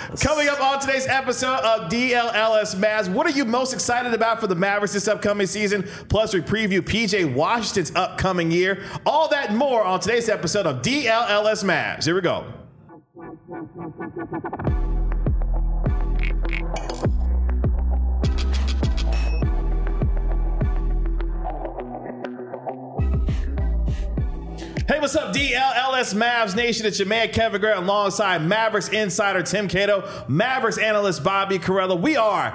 Coming up on today's episode of DLLS Mavs, what are you most excited about for the Mavericks this upcoming season? Plus, we preview PJ Washington's upcoming year. All that and more on today's episode of DLLS Mavs. Here we go. Hey, what's up, DLLS Mavs Nation? It's your man, Kevin Grant, alongside Mavericks insider Tim Cato, Mavericks analyst Bobby Carrella. We are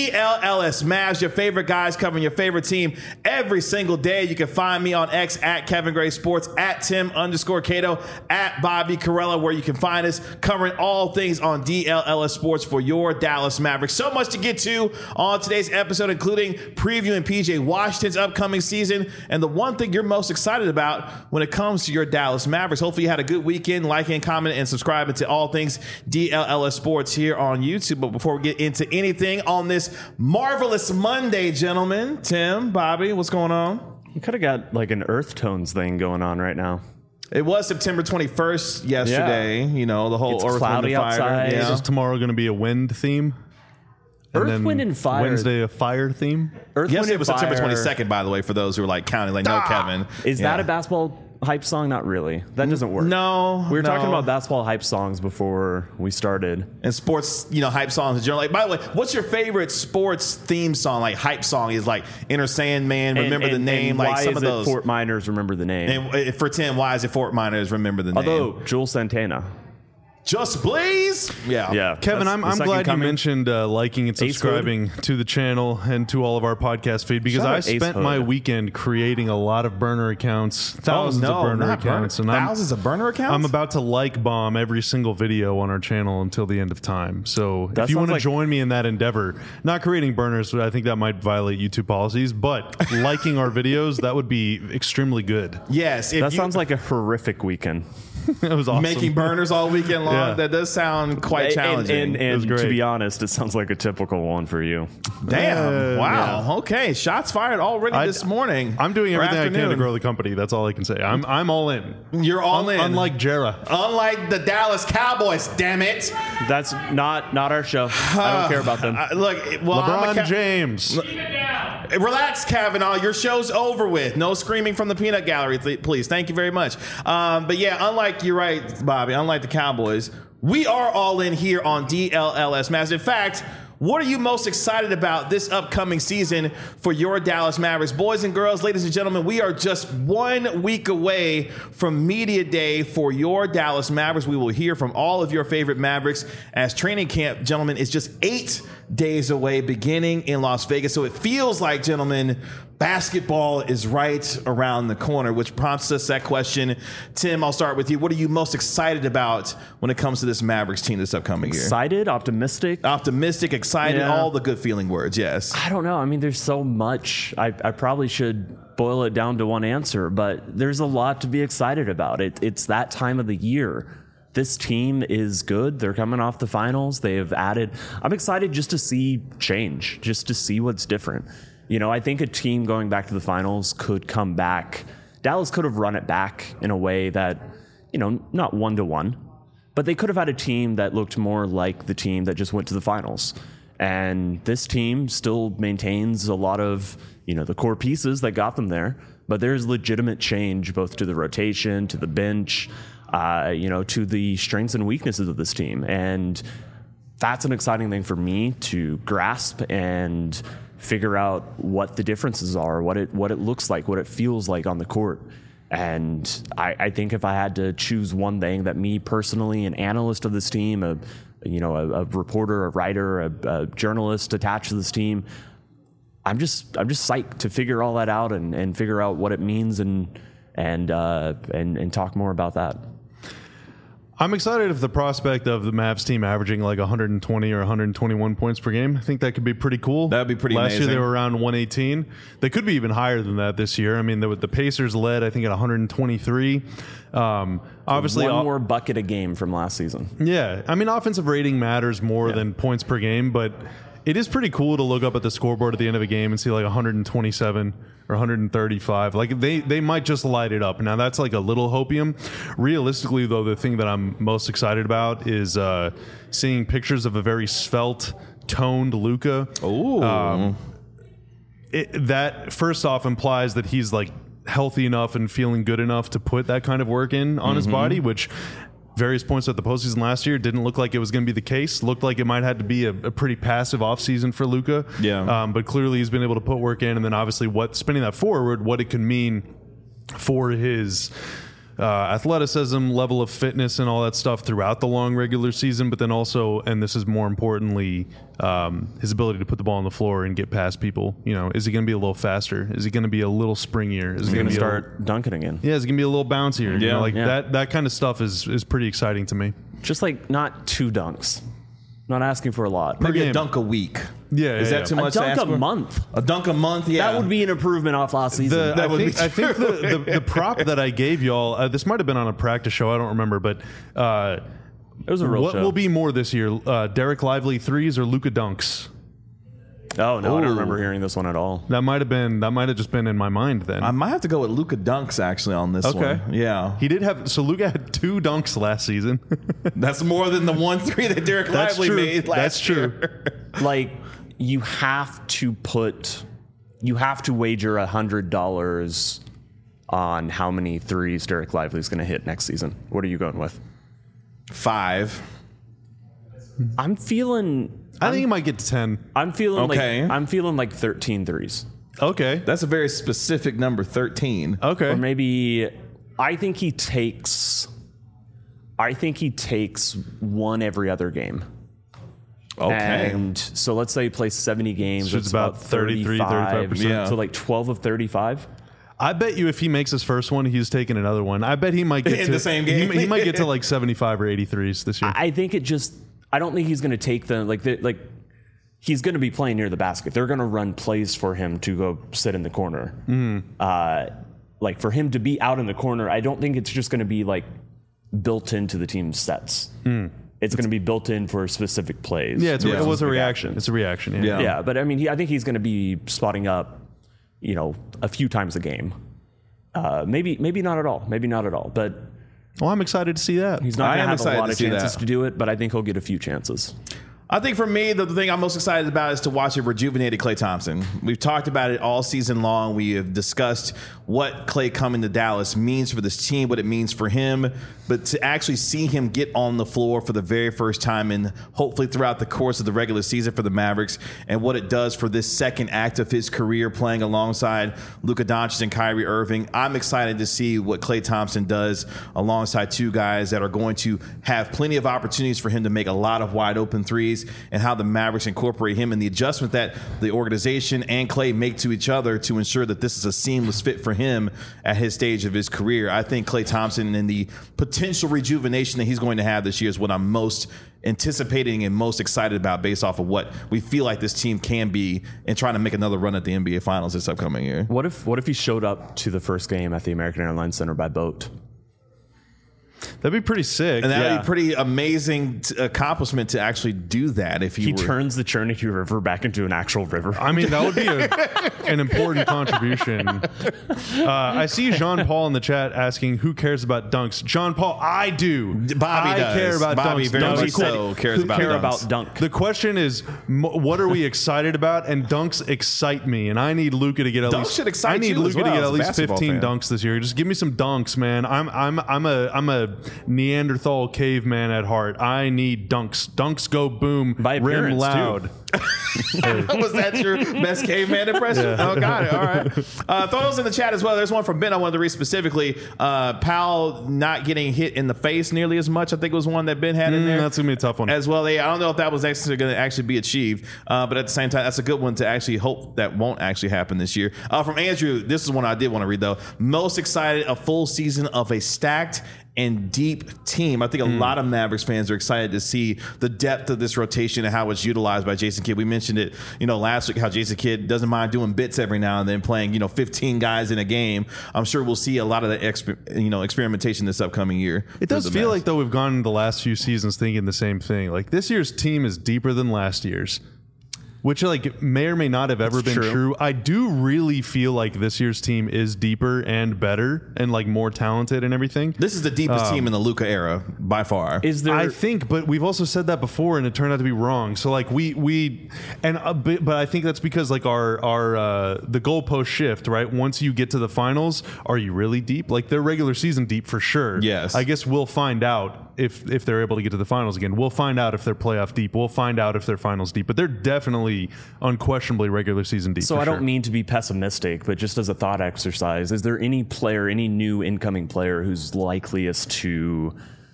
DLLS Mavs, your favorite guys covering your favorite team every single day. You can find me on X at Kevin Gray Sports, at Tim_Cato, at Bobby Carrella, where you can find us covering all things on DLLS Sports for your Dallas Mavericks. So much to get to on today's episode, including previewing PJ Washington's upcoming season and the one thing you're most excited about when it comes to your Dallas Mavericks. Hopefully you had a good weekend, liking, commenting, and subscribing to all things DLLS Sports here on YouTube. But before we get into anything on this marvelous Monday, gentlemen, Tim, Bobby, what's going on? You could have got like an Earth Tones thing going on right now. It was September 21st yesterday. Yeah. You know, the whole it's Earth, cloudy Wind, and Fire. outside. Yeah. Is tomorrow going to be a wind theme? Earth, Wind, and Fire. Wednesday, a fire theme? Earth, Yesterday Wind, was and September Fire. 22nd, by the way, for those who are like counting, like, no, Kevin. Is that a basketball hype song? Not really. That doesn't work. No. We were talking about basketball hype songs before we started. And sports, you know, hype songs in general. Like, by the way, what's your favorite sports theme song? Like, hype song is like Inner Sandman, Remember the Name, and like why some is of it those. Fort Miners, Remember the Name. And for Tim, why is it Fort Miners, Remember the Name? Although, Jules Santana. Just Blaze? Yeah. Kevin, I'm glad you mentioned liking and subscribing Hood. to the channel and to all of our podcast feed, because I spent my weekend creating a lot of burner accounts, thousands of burner accounts. And thousands of burner accounts? I'm about to like bomb every single video on our channel until the end of time. So if you want to join me in that endeavor, not creating burners, I think that might violate YouTube policies, but liking our videos, that would be extremely good. Yes. That sounds like a horrific weekend. It was awesome. Making burners all weekend long. Yeah. That does sound quite challenging. And to be honest, it sounds like a typical one for you. Damn. Wow. Yeah. Okay. Shots fired already this morning. I'm doing everything I can to grow the company. That's all I can say. I'm all in. You're all in. Unlike Jera. Unlike the Dallas Cowboys, damn it. That's not our show. I don't care about them. Look, well, LeBron James. Relax, Kavanaugh. Your show's over with. No screaming from the peanut gallery, please. Thank you very much. But yeah, you're right, Bobby. Unlike the Cowboys, we are all in here on DLLS Mavs. In fact, what are you most excited about this upcoming season for your Dallas Mavericks? Boys and girls, ladies and gentlemen, we are just 1 week away from Media Day for your Dallas Mavericks. We will hear from all of your favorite Mavericks as training camp, gentlemen, is just 8 days away, beginning in Las Vegas. So it feels like, gentlemen, basketball is right around the corner, which prompts us that question. Tim, I'll start with you. What are you most excited about when it comes to this Mavericks team this upcoming year? Excited, optimistic, excited, all the good feeling words. Yes. I don't know. I mean, there's so much. I probably should boil it down to one answer, but there's a lot to be excited about. It's that time of the year. This team is good. They're coming off the finals. They have added. I'm excited just to see change, just to see what's different. You know, I think a team going back to the finals could come back. Dallas could have run it back in a way that, you know, not 1-to-1, but they could have had a team that looked more like the team that just went to the finals. And this team still maintains a lot of, you know, the core pieces that got them there, but there's legitimate change both to the rotation, to the bench, you know, to the strengths and weaknesses of this team. And that's an exciting thing for me to grasp and figure out what the differences are, what it looks like, what it feels like on the court. And I think if I had to choose one thing that me personally, an analyst of this team, a reporter, a writer, a journalist attached to this team, I'm just psyched to figure all that out and figure out what it means and talk more about that. I'm excited of the prospect of the Mavs team averaging like 120 or 121 points per game. I think that could be pretty cool. That would be pretty amazing. Last year they were around 118. They could be even higher than that this year. I mean, the Pacers led, I think, at 123. Obviously, one more bucket a game from last season. Yeah. I mean, offensive rating matters more than points per game, but It is pretty cool to look up at the scoreboard at the end of a game and see like 127 or 135. Like they might just light it up. Now that's like a little hopium. Realistically, though, the thing that I'm most excited about is seeing pictures of a very svelte, toned Luka. Ooh. That first off implies that he's like healthy enough and feeling good enough to put that kind of work in on his body, which various points at the postseason last year didn't look like it was going to be the case. Looked like it might have to be a pretty passive offseason for Luka. Yeah. But clearly he's been able to put work in, and then obviously spinning that forward, what it can mean for his athleticism, level of fitness, and all that stuff throughout the long regular season, but then also, and this is more importantly, his ability to put the ball on the floor and get past people. You know, is he going to be a little faster? Is he going to be a little springier? Is he going to start dunking again? Yeah, is he going to be a little bouncier? Yeah, you know, that kind of stuff is pretty exciting to me. Just like not 2 dunks. Not asking for a lot. Maybe game. a dunk a week. Yeah, Is that too much A to dunk ask a for? month. A dunk a month, yeah. That would be an improvement off last season. I think the prop that I gave y'all, this might have been on a practice show, I don't remember, but It was a real what show. will be more this year, Derek Lively threes or Luka dunks? Oh no, I Ooh. don't remember hearing this one at all. That might have just been in my mind then. I might have to go with Luka dunks actually on this Okay. one. Yeah. He did have, so Luka had 2 dunks last season. That's more than the 1-3 that Derek That's Lively true. made last That's true. year. Like you have to wager $100 on how many threes Derek Lively's going to hit next season. What are you going with? 5. I'm feeling. I think he might get to 10. I'm feeling Okay. like 13 threes. Okay. That's a very specific number, 13. Okay. Or maybe I think he takes one every other game. Okay. And so let's say he plays 70 games. So it's that's about 33, 35%. Yeah. So like 12 of 35. I bet you if he makes his first one, he's taking another one. I bet he might get In to the same game? He might get to like 75 or 83s this year. I think I don't think he's going to take he's going to be playing near the basket. They're going to run plays for him to go sit in the corner. Like for him to be out in the corner, I don't think it's just going to be like built into the team's sets. It's going to be built in for specific plays. Yeah, it was a Specific reaction. actions. It's a reaction. Yeah. Yeah, but I mean, I think he's going to be spotting up, a few times a game. Maybe not at all. Maybe not at all. But Well, I'm excited to see that. he's not going to have a excited lot to of see chances that. to do it. But I think he'll get a few chances. I think for me, the thing I'm most excited about is to watch a rejuvenated Klay Thompson. We've talked about it all season long. We have discussed what Klay coming to Dallas means for this team, what it means for him. But to actually see him get on the floor for the very first time and hopefully throughout the course of the regular season for the Mavericks and what it does for this second act of his career playing alongside Luka Doncic and Kyrie Irving, I'm excited to see what Klay Thompson does alongside 2 guys that are going to have plenty of opportunities for him to make a lot of wide open threes, and how the Mavericks incorporate him and the adjustment that the organization and Klay make to each other to ensure that this is a seamless fit for him at his stage of his career. I think Klay Thompson and the potential rejuvenation that he's going to have this year is what I'm most anticipating and most excited about based off of what we feel like this team can be and trying to make another run at the NBA Finals this upcoming year. What if he showed up to the first game at the American Airlines Center by boat? That'd be pretty sick. And that'd Yeah. be a pretty amazing accomplishment to actually do that if He were. turns the Cherokee River back into an actual river. I mean, that would be an important contribution. I see Jean Paul in the chat asking, who cares about dunks? John Paul, I do. Bobby I does. care about Bobby dunks. very Dunks much are cool. so cares Who about care dunks. about dunk? The question is, what are we excited about? And dunks excite me, and I need Luka to get at Dunks least. should excite I need you as Luka to well get as at a least basketball 15 fan. dunks this year. Just give me some dunks, man. I'm a Neanderthal caveman at heart. I need dunks. Dunks go boom. By rim appearance, loud. Was that your best caveman impression? Oh, got it. All right. Throw those in the chat as well. There's one from Ben I wanted to read specifically. Powell not getting hit in the face nearly as much. I think it was one that Ben had in there. That's gonna be a tough one. As well. I don't know if that was actually going to actually be achieved, but at the same time, that's a good one to actually hope that won't actually happen this year. From Andrew, this is one I did want to read though. Most excited a full season of a stacked and deep team. I think a lot of Mavericks fans are excited to see the depth of this rotation and how it's utilized by Jason Kidd. We mentioned it, last week, how Jason Kidd doesn't mind doing bits every now and then, playing, 15 guys in a game. I'm sure we'll see a lot of that, experimentation this upcoming year. It does feel like, though, we've gone the last few seasons thinking the same thing. Like, this year's team is deeper than last year's. which like may or may not have ever been true. I do really feel like this year's team is deeper and better and like more talented and everything. This is the deepest team in the Luka era by far. Is there? I think, but we've also said that before, and it turned out to be wrong. So like but I think that's because like our the goalpost shift, right? Once you get to the finals, are you really deep? Like they're regular season deep for sure. Yes. I guess we'll find out if they're able to get to the finals again. We'll find out if they're playoff deep. We'll find out if they're finals deep. But they're definitely, unquestionably regular season deep. So I don't mean to be pessimistic, but just as a thought exercise, is there any player, any new incoming player who's likeliest to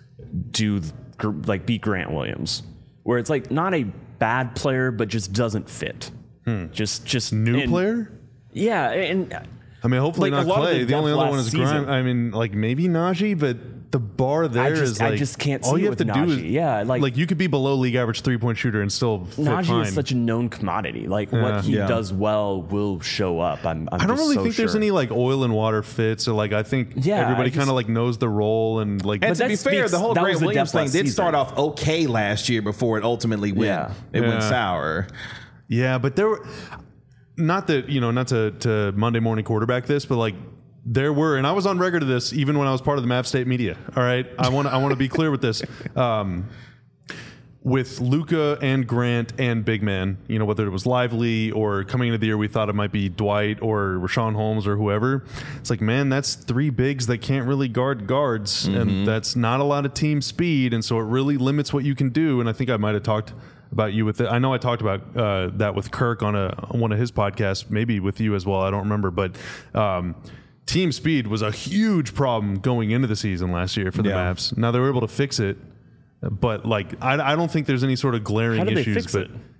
beat Grant Williams, where it's like not a bad player, but just doesn't fit? Just new player? Yeah, and I mean, hopefully like not Clay. The only other one is season. Grant. I mean, like maybe Najee, but the bar there is like I just can't see all you it have to with do Najee. is like you could be below league average 3-point shooter and still fit Najee fine. is such a known commodity. Like what he does well will show up. I don't really think there's any like oil and water fits, or like I think everybody kind of like knows the role and like. And to be fair, the whole Grant Williams thing did start off okay last year before it ultimately went sour. Yeah, but there were not to Monday morning quarterback this, but like. There were, and I was on record of this even when I was part of the Mavs State media. All right, I want to be clear with this. With Luka and Grant and big man, whether it was Lively or coming into the year we thought it might be Dwight or Rashawn Holmes or whoever. It's like, man, that's three bigs that can't really guard guards, and that's not a lot of team speed, and so it really limits what you can do. And I think I might have talked about you with it. I know I talked about that with Kirk on one of his podcasts, maybe with you as well. I don't remember, but. Team speed was a huge problem going into the season last year for the Mavs. Now they were able to fix it, but like I don't think there's any sort of glaring issues. How did they fix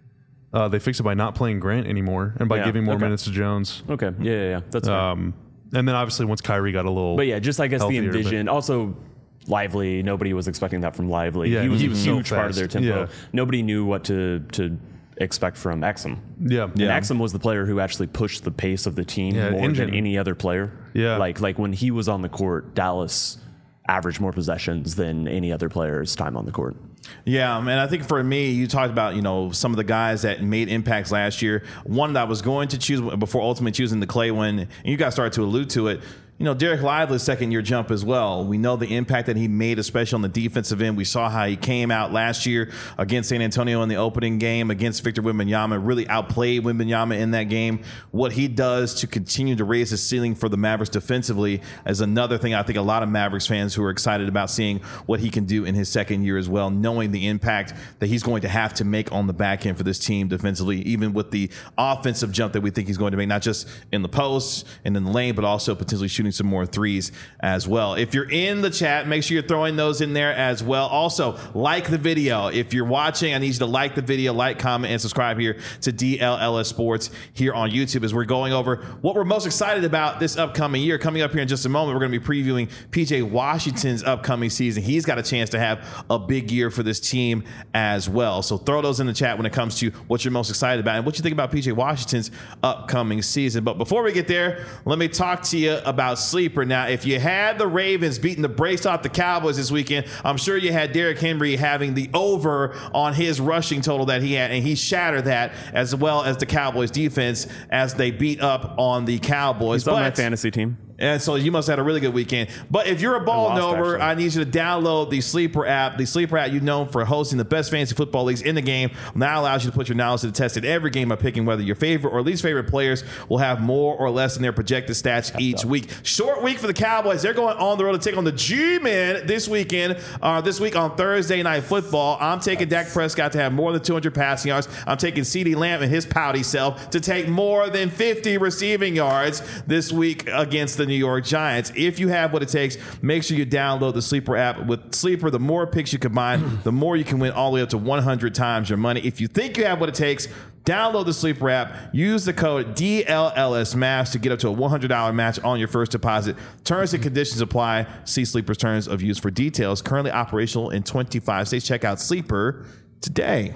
it? They fixed it by not playing Grant anymore and by giving more minutes to Jones. Okay, yeah, that's fair. And then obviously once Kyrie got a little, but yeah, just I guess healthier, the envision also. Lively, nobody was expecting that from Lively. Yeah, he was a so huge part of their tempo. Yeah. Nobody knew what to expect from Exum. Yeah. And Exum was the player who actually pushed the pace of the team more than any other player. Yeah. Like when he was on the court, Dallas averaged more possessions than any other player's time on the court. Yeah, man, I think for me, you talked about, some of the guys that made impacts last year. One that I was going to choose before ultimately choosing the Clay one, and you guys started to allude to it. Derek Lively's second-year jump as well. We know the impact that he made, especially on the defensive end. We saw how he came out last year against San Antonio in the opening game against Victor Wembanyama, really outplayed Wembanyama in that game. What he does to continue to raise his ceiling for the Mavericks defensively is another thing I think a lot of Mavericks fans who are excited about seeing what he can do in his second year as well, knowing the impact that he's going to have to make on the back end for this team defensively, even with the offensive jump that we think he's going to make, not just in the post and in the lane, but also potentially shooting some more threes as well. If you're in the chat, make sure you're throwing those in there as well. Also, like the video. If you're watching, I need you to like the video, like, comment, and subscribe here to DLLS Sports here on YouTube as we're going over what we're most excited about this upcoming year. Coming up here in just a moment, we're going to be previewing PJ Washington's upcoming season. He's got a chance to have a big year for this team as well. So throw those in the chat when it comes to what you're most excited about and what you think about PJ Washington's upcoming season. But before we get there, let me talk to you about Sleeper. Now, if you had the Ravens beating the brace off the Cowboys this weekend, I'm sure you had Derrick Henry having the over on his rushing total that he had, and he shattered that, as well as the Cowboys defense as they beat up on the Cowboys. He's on my fantasy team. And so you must have had a really good weekend. But if you're a ball knower, I need you to download the Sleeper app. The Sleeper app, known for hosting the best fantasy football leagues in the game, now allows you to put your knowledge to the test in every game by picking whether your favorite or least favorite players will have more or less in their projected stats each week. Short week for the Cowboys. They're going on the road to take on the G-Men this weekend. This week on Thursday Night Football. I'm taking Dak Prescott to have more than 200 passing yards. I'm taking CeeDee Lamb and his pouty self to take more than 50 receiving yards this week against the New York Giants. If you have what it takes, make sure you download the Sleeper app. With Sleeper, the more picks you combine, the more you can win, all the way up to 100 times your money. If you think you have what it takes, download the Sleeper app. Use the code DLLSMAVS to get up to a $100 match on your first deposit. Terms and conditions apply. See Sleeper's terms of use for details. Currently operational in 25 states. Check out Sleeper today.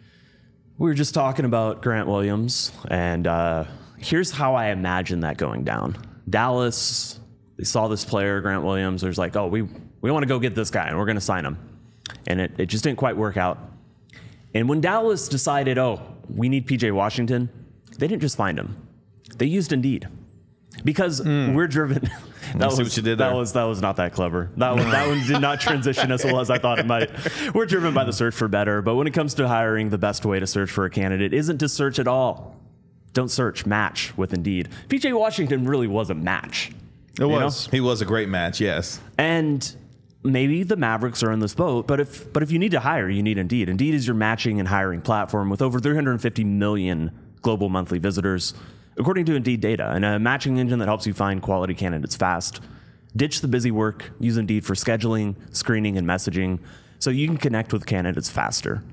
We were just talking about Grant Williams, and here's how I imagine that going down. Dallas, they saw this player, Grant Williams. There's like, oh, we want to go get this guy, and we're going to sign him. And it just didn't quite work out. And when Dallas decided, oh, we need PJ Washington. They didn't just find him. They used Indeed. Because we're driven. That was what you did there. That was not that clever. That one did not transition as well as I thought it might. We're driven by the search for better, but when it comes to hiring, the best way to search for a candidate isn't to search at all. Don't search, match with Indeed. PJ Washington really was a match. It was. He was a great match, yes. And maybe the Mavericks are in this boat, but if you need to hire, you need Indeed. Indeed is your matching and hiring platform with over 350 million global monthly visitors, according to Indeed data, and a matching engine that helps you find quality candidates fast. Ditch the busy work. Use Indeed for scheduling, screening, and messaging so you can connect with candidates faster.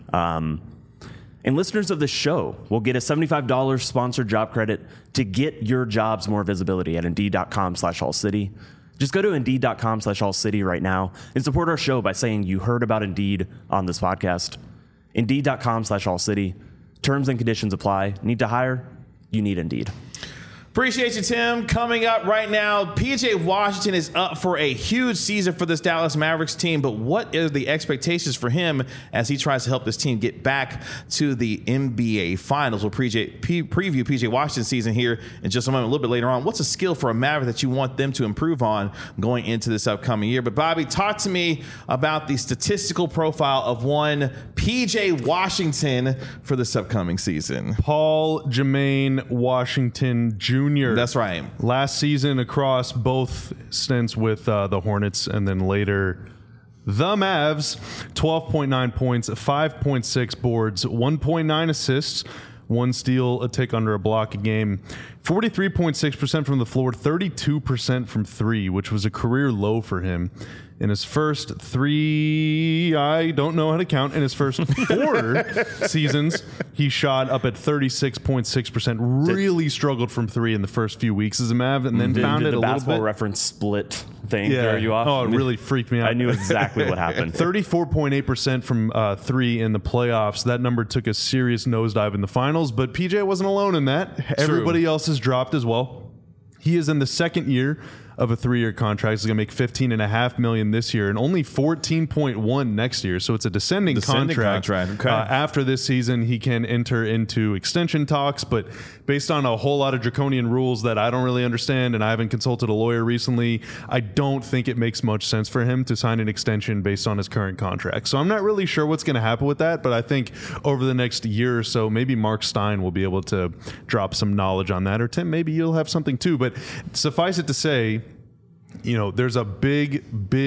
And listeners of this show will get a $75 sponsored job credit to get your jobs more visibility at Indeed.com/AllCity. Just go to Indeed.com/AllCity right now and support our show by saying you heard about Indeed on this podcast. Indeed.com/AllCity. Terms and conditions apply. Need to hire? You need Indeed. Appreciate you, Tim. Coming up right now, PJ Washington is up for a huge season for this Dallas Mavericks team, but what are the expectations for him as he tries to help this team get back to the NBA Finals? We'll preview PJ Washington's season here in just a moment, a little bit later on. What's a skill for a Maverick that you want them to improve on going into this upcoming year? But Bobby, talk to me about the statistical profile of one PJ Washington for this upcoming season. Paul Jermaine Washington Jr. That's right. Last season across both stints with the Hornets and then later the Mavs, 12.9 points, 5.6 boards, 1.9 assists, 1 steal, a tick under a block a game, 43.6% from the floor, 32% from 3, which was a career low for him. In his first 3, I don't know how to count. In his first 4 seasons, he shot up at 36.6%. Really struggled from 3 in the first few weeks as a Mav, and then found it a little bit. The Basketball Reference split thing throw you off? Oh, it really freaked me out. I knew exactly what happened. 34.8% from 3 in the playoffs. That number took a serious nosedive in the finals, but PJ wasn't alone in that. True. Everybody else has dropped as well. He is in the second year of a 3-year contract. He's going to make $15.5 million this year and only $14.1 next year. So it's a descending contract. Okay. After this season, he can enter into extension talks, but based on a whole lot of draconian rules that I don't really understand, and I haven't consulted a lawyer recently, I don't think it makes much sense for him to sign an extension based on his current contract. So I'm not really sure what's going to happen with that, but I think over the next year or so, maybe Mark Stein will be able to drop some knowledge on that, or Tim, maybe you'll have something too. But suffice it to say, you know, there's a big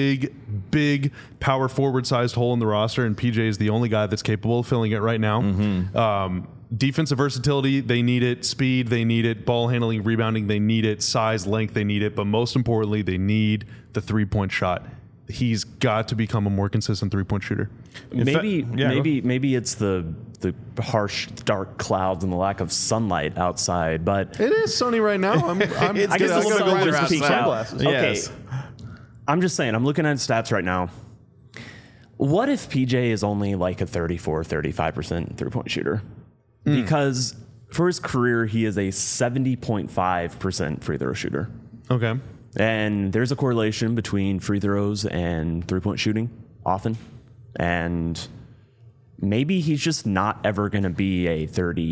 power forward sized hole in the roster, and PJ is the only guy that's capable of filling it right now. Defensive versatility, they need it. Speed, they need it. Ball handling, rebounding, they need it. Size, length, they need it. But most importantly, they need the 3-point shot. He's got to become a more consistent 3-point shooter. Maybe it's the harsh, dark clouds and the lack of sunlight outside, but it is sunny right now. I guess the sun just peeked out. Yes. Okay, I'm just saying. I'm looking at stats right now. What if PJ is only like a 34-35% 3-point shooter? Because for his career, he is a 70.5% free throw shooter. Okay. And there's a correlation between free throws and 3-point shooting often. And maybe he's just not ever going to be a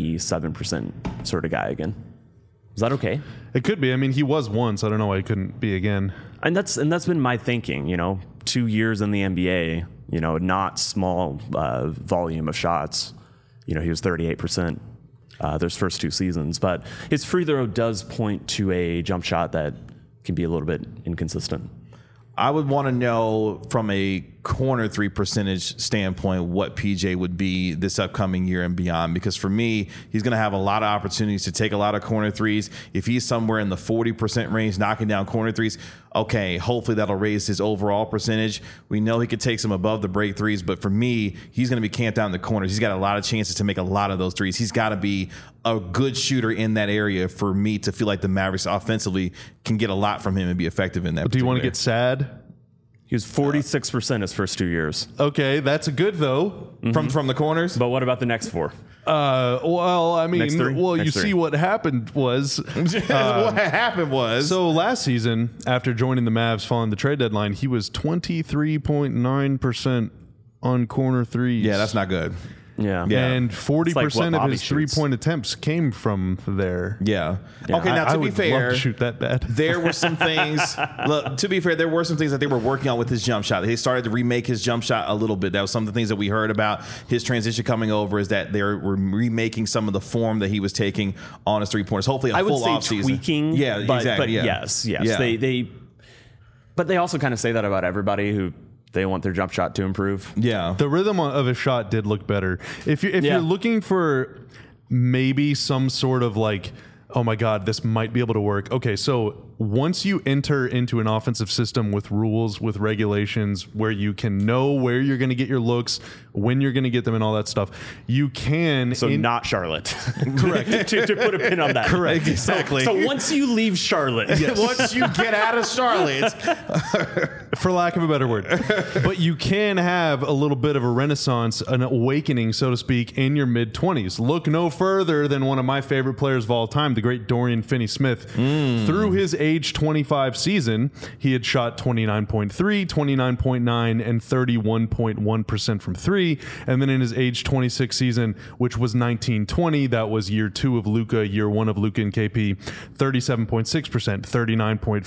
37% sort of guy again. Is that okay? It could be. I mean, he was once. I don't know why he couldn't be again. And that's been my thinking, 2 years in the NBA, not small volume of shots. He was 38% those first 2 seasons. But his free throw does point to a jump shot that can be a little bit inconsistent. I would want to know from a corner 3 percentage standpoint what PJ would be this upcoming year and beyond, because for me, he's going to have a lot of opportunities to take a lot of corner threes. If he's somewhere in the 40% range knocking down corner threes, okay, hopefully that'll raise his overall percentage. We know he could take some above the break threes, but for me, he's going to be camped out in the corners. He's got a lot of chances to make a lot of those threes. He's got to be a good shooter in that area for me to feel like the Mavericks offensively can get a lot from him and be effective in that. Do you want to get sad? He was 46% his first 2 years. Okay, that's good though. From the corners. But what about the next 4? Well, I mean, Next 3? See what happened was what happened was so last season after joining the Mavs following the trade deadline, he was 23.9% on corner threes. Yeah, that's not good. Yeah. And 40% like what of Bobby his shoots. 3-point attempts came from there. Yeah. Okay, now I to be would fair, love to shoot that bad. there were some things. Look, to be fair, there were some things that they were working on with his jump shot. They started to remake his jump shot a little bit. That was some of the things that we heard about his transition coming over. Is that they were remaking some of the form that he was taking on his 3-pointers. Hopefully, a I would full say off season. tweaking. Yeah, but, exactly. But yeah. yes. Yeah. But they also kind of say that about everybody who they want their jump shot to improve. Yeah. The rhythm of his shot did look better. If you're looking for maybe some sort of like, oh my God, this might be able to work. Okay, so once you enter into an offensive system with rules, with regulations, where you can know where you're going to get your looks, when you're going to get them, and all that stuff, you can. So not Charlotte. Correct. to put a pin on that. Correct. Exactly. So once you leave Charlotte, Once you get out of Charlotte, for lack of a better word. But you can have a little bit of a renaissance, an awakening, so to speak, in your mid-20s. Look no further than one of my favorite players of all time, the great Dorian Finney-Smith. Through his age 25 season, he had shot 29.3, 29.9, and 31.1% from three. And then in his age 26 season, which was 19-20, that was year 2 of Luka, year 1 of Luka and KP, 37.6%, 39.4,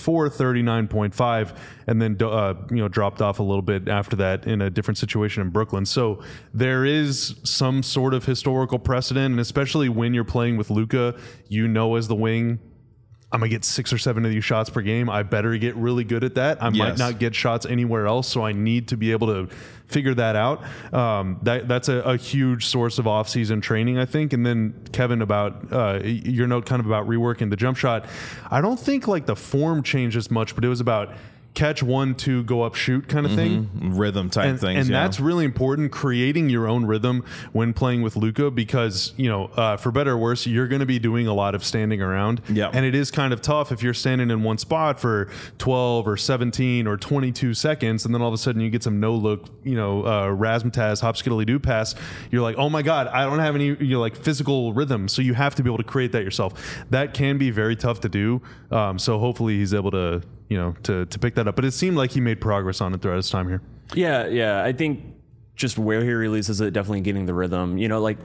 39.5, and then dropped off a little bit after that in a different situation in Brooklyn. So there is some sort of historical precedent, and especially when you're playing with Luka, you know, as the wing, I'm going to get 6 or 7 of these shots per game. I better get really good at that. I might not get shots anywhere else, so I need to be able to figure that out. That's a huge source of off-season training, I think. And then, Kevin, about your note kind of about reworking the jump shot, I don't think like the form changed as much, but it was about catch 1, 2, go up, shoot kind of thing. Rhythm type things. And that's really important, creating your own rhythm when playing with Luka, because, for better or worse, you're going to be doing a lot of standing around. Yeah. And it is kind of tough if you're standing in one spot for 12 or 17 or 22 seconds, and then all of a sudden you get some no-look, razzmatazz, hop-skiddly-doo pass. You're like, oh my God, I don't have any physical rhythm. So you have to be able to create that yourself. That can be very tough to do. So hopefully he's able to pick that up. But it seemed like he made progress on it throughout his time here. Yeah. I think just where he releases it, definitely getting the rhythm.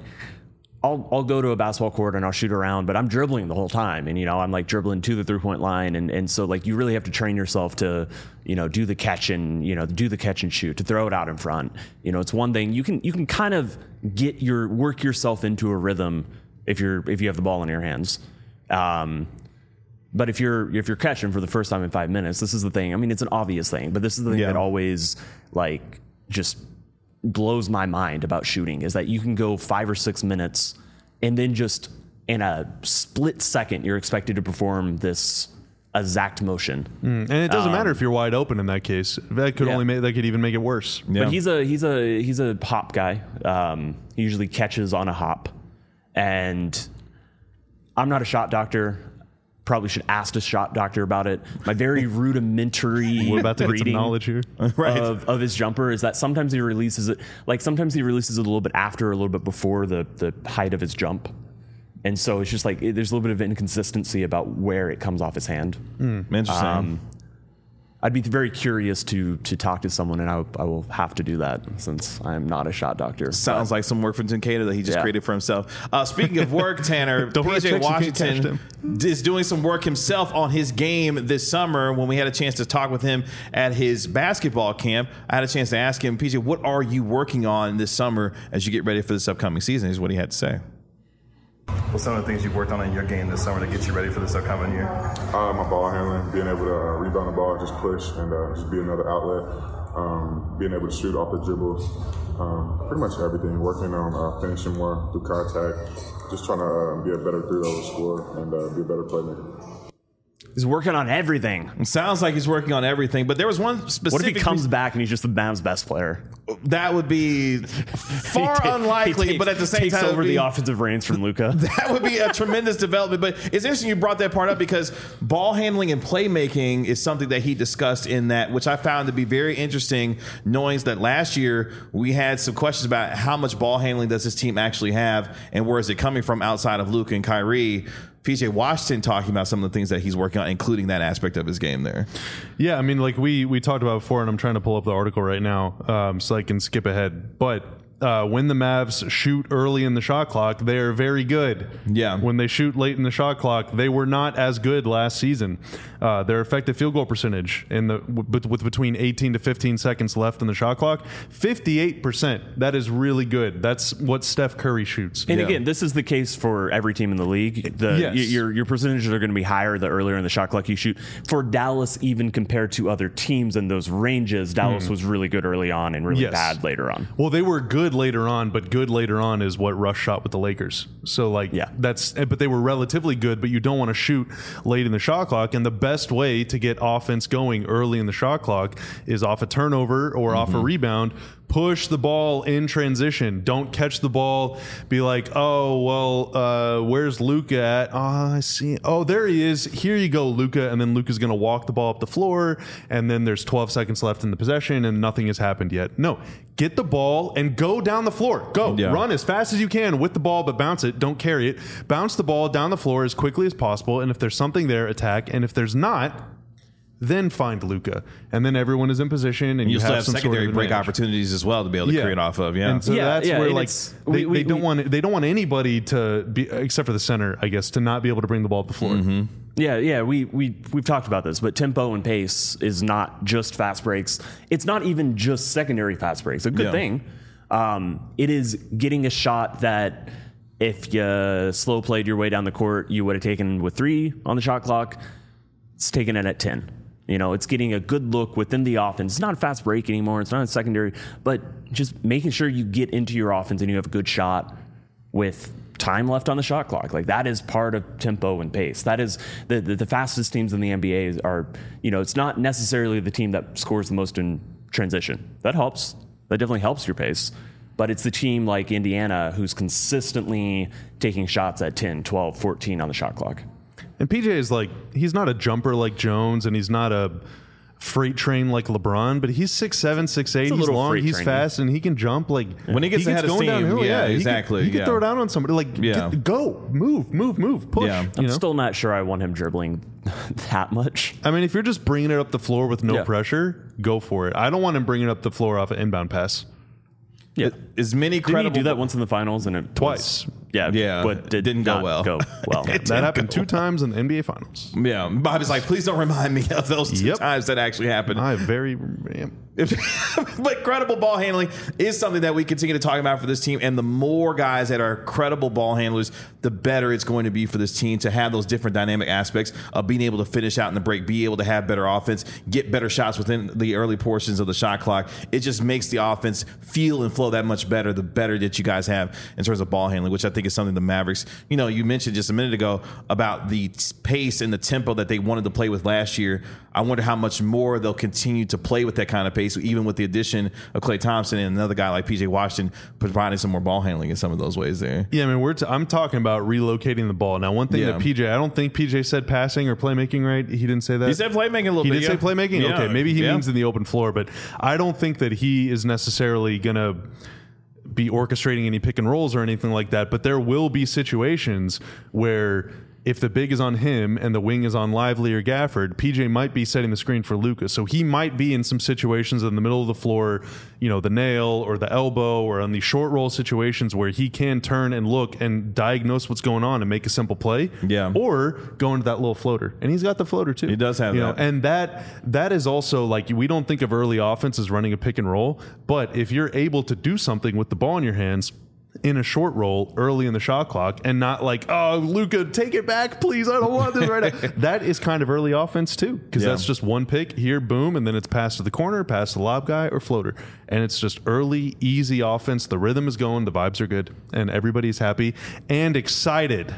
I'll go to a basketball court and I'll shoot around, but I'm dribbling the whole time. And, I'm like dribbling to the 3-point line. And so like you really have to train yourself to, do the catch and, do the catch and shoot, to throw it out in front. It's one thing you can kind of work yourself into a rhythm if you have the ball in your hands. But if you're catching for the first time in 5 minutes, this is the thing. I mean, it's an obvious thing, but this is the thing that always just blows my mind about shooting, is that you can go 5 or 6 minutes and then just in a split second, you're expected to perform this exact motion. And it doesn't matter if you're wide open in that case. That could that could even make it worse. Yeah. But he's a hop guy. He usually catches on a hop, and I'm not a shot doctor. Probably should ask a shot doctor about it. My very rudimentary We're about to get some reading knowledge here. of his jumper is that sometimes he releases it a little bit after, a little bit before the height of his jump. And so it's just like there's a little bit of inconsistency about where it comes off his hand. Interesting. I'd be very curious to talk to someone, and I will have to do that since I'm not a shot doctor. Sounds like some work from Takedo that he just created for himself. Speaking of work, Tanner, PJ Washington is doing some work himself on his game this summer. When we had a chance to talk with him at his basketball camp, I had a chance to ask him, PJ, what are you working on this summer as you get ready for this upcoming season? Is what he had to say. What's some of the things you've worked on in your game this summer to get you ready for this upcoming year? My ball handling, being able to rebound the ball, just push, and just be another outlet. Being able to shoot off the dribbles, pretty much everything. Working on finishing more through contact, just trying to be a better 3-over scorer and be a better playmaker. He's working on everything. It sounds like he's working on everything, but there was one specific... What if he comes back and he's just the Mavs' best player? That would be far unlikely, but at the same time... takes over the offensive reins from Luka. That would be a tremendous development, but it's interesting you brought that part up because ball handling and playmaking is something that he discussed in that, which I found to be very interesting, knowing that last year we had some questions about how much ball handling does this team actually have and where is it coming from outside of Luka and Kyrie. PJ Washington talking about some of the things that he's working on, including that aspect of his game there. Yeah, I mean, like we talked about before, and I'm trying to pull up the article right now so I can skip ahead. But when the Mavs shoot early in the shot clock, they are very good. Yeah. When they shoot late in the shot clock, they were not as good last season. Their effective field goal percentage with between 18 to 15 seconds left in the shot clock, 58%. That is really good. That's what Steph Curry shoots. And again, this is the case for every team in the league. Your percentages are going to be higher the earlier in the shot clock you shoot. For Dallas, even compared to other teams in those ranges, Dallas was really good early on and really bad later on. Well, they were good later on, but good later on is what Russ shot with the Lakers. So but they were relatively good, but you don't want to shoot late in the shot clock. And the best way to get offense going early in the shot clock is off a turnover or off a rebound. Push the ball in transition. Don't catch the ball. Be like, oh, well, where's Luka at? Oh, I see. Oh, there he is. Here you go, Luka. And then Luka's going to walk the ball up the floor. And then there's 12 seconds left in the possession and nothing has happened yet. No, get the ball and go down the floor. Go. Yeah. Run as fast as you can with the ball, but bounce it. Don't carry it. Bounce the ball down the floor as quickly as possible. And if there's something there, attack. And if there's not, then find Luka, and then everyone is in position, and you still have some secondary sort of break opportunities as well to be able to create off of. Yeah, and so that's where they don't want anybody to be, except for the center, I guess, to not be able to bring the ball up the floor. Mm-hmm. Yeah, we've talked about this, but tempo and pace is not just fast breaks. It's not even just secondary fast breaks. A good thing. It is getting a shot that if you slow played your way down the court, you would have taken with 3 on the shot clock. It's taking it at 10. It's getting a good look within the offense. It's not a fast break anymore. It's not a secondary, but just making sure you get into your offense and you have a good shot with time left on the shot clock. Like that is part of tempo and pace. That is the fastest teams in the NBA are, it's not necessarily the team that scores the most in transition. That helps. That definitely helps your pace. But it's the team like Indiana who's consistently taking shots at 10, 12, 14 on the shot clock. And PJ is he's not a jumper like Jones, and he's not a freight train like LeBron, but he's 6'7", 6'8". He's long, he's fast, and he can jump. Like when he gets ahead of steam, downhill, exactly. He can throw it out on somebody. Go, move, push. Yeah. I'm still not sure I want him dribbling that much. I mean, if you're just bringing it up the floor with no pressure, go for it. I don't want him bringing up the floor off an inbound pass. Yeah, as many credible. Did he do that once in the finals and it twice? But it didn't go well. That happened 2 times in the NBA Finals. Yeah, Bobby's like, please don't remind me of those 2 times that actually happened. But credible ball handling is something that we continue to talk about for this team, and the more guys that are credible ball handlers, the better it's going to be for this team to have those different dynamic aspects of being able to finish out in the break, be able to have better offense, get better shots within the early portions of the shot clock. It just makes the offense feel and flow that much better, the better that you guys have in terms of ball handling, which I think is something the Mavericks, you mentioned just a minute ago about the pace and the tempo that they wanted to play with last year. I wonder how much more they'll continue to play with that kind of pace, even with the addition of Klay Thompson and another guy like PJ Washington providing some more ball handling in some of those ways there. Yeah, I mean, I'm talking about relocating the ball. Now, one thing that PJ, I don't think PJ said passing or playmaking, right? He didn't say that? He said playmaking a little bit. He did say playmaking? Yeah. Okay, maybe he means in the open floor, but I don't think that he is necessarily going to be orchestrating any pick and rolls or anything like that, but there will be situations where if the big is on him and the wing is on Lively or Gafford, PJ might be setting the screen for Luka. So he might be in some situations in the middle of the floor, the nail or the elbow, or on these short roll situations where he can turn and look and diagnose what's going on and make a simple play. Yeah. Or go into that little floater. And he's got the floater too. He does have that. And that is also we don't think of early offense as running a pick and roll, but if you're able to do something with the ball in your hands in a short roll early in the shot clock and not Luka, take it back, please. I don't want this right now. That is kind of early offense too, because that's just one pick here, boom, and then it's pass to the corner, pass to the lob guy or floater. And it's just early, easy offense. The rhythm is going, the vibes are good, and everybody's happy and excited.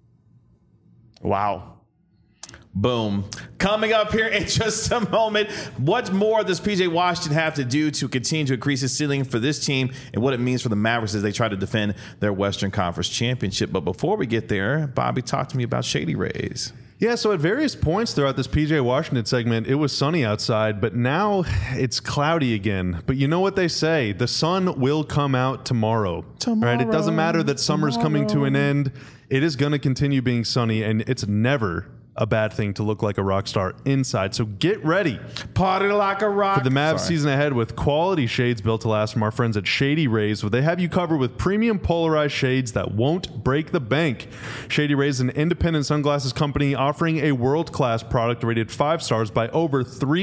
Wow. Boom. Coming up here in just a moment, what more does PJ Washington have to do to continue to increase his ceiling for this team and what it means for the Mavericks as they try to defend their Western Conference championship? But before we get there, Bobby, talk to me about Shady Rays. Yeah, so at various points throughout this PJ Washington segment, it was sunny outside, but now it's cloudy again. But you know what they say, the sun will come out tomorrow. Right? It doesn't matter that summer's coming to an end. It is going to continue being sunny, and it's never a bad thing to look like a rock star inside. So get ready. Party like a rock. For the Mavs season ahead with quality shades built to last from our friends at Shady Rays, where they have you covered with premium polarized shades that won't break the bank. Shady Rays is an independent sunglasses company offering a world-class product rated 5 stars by over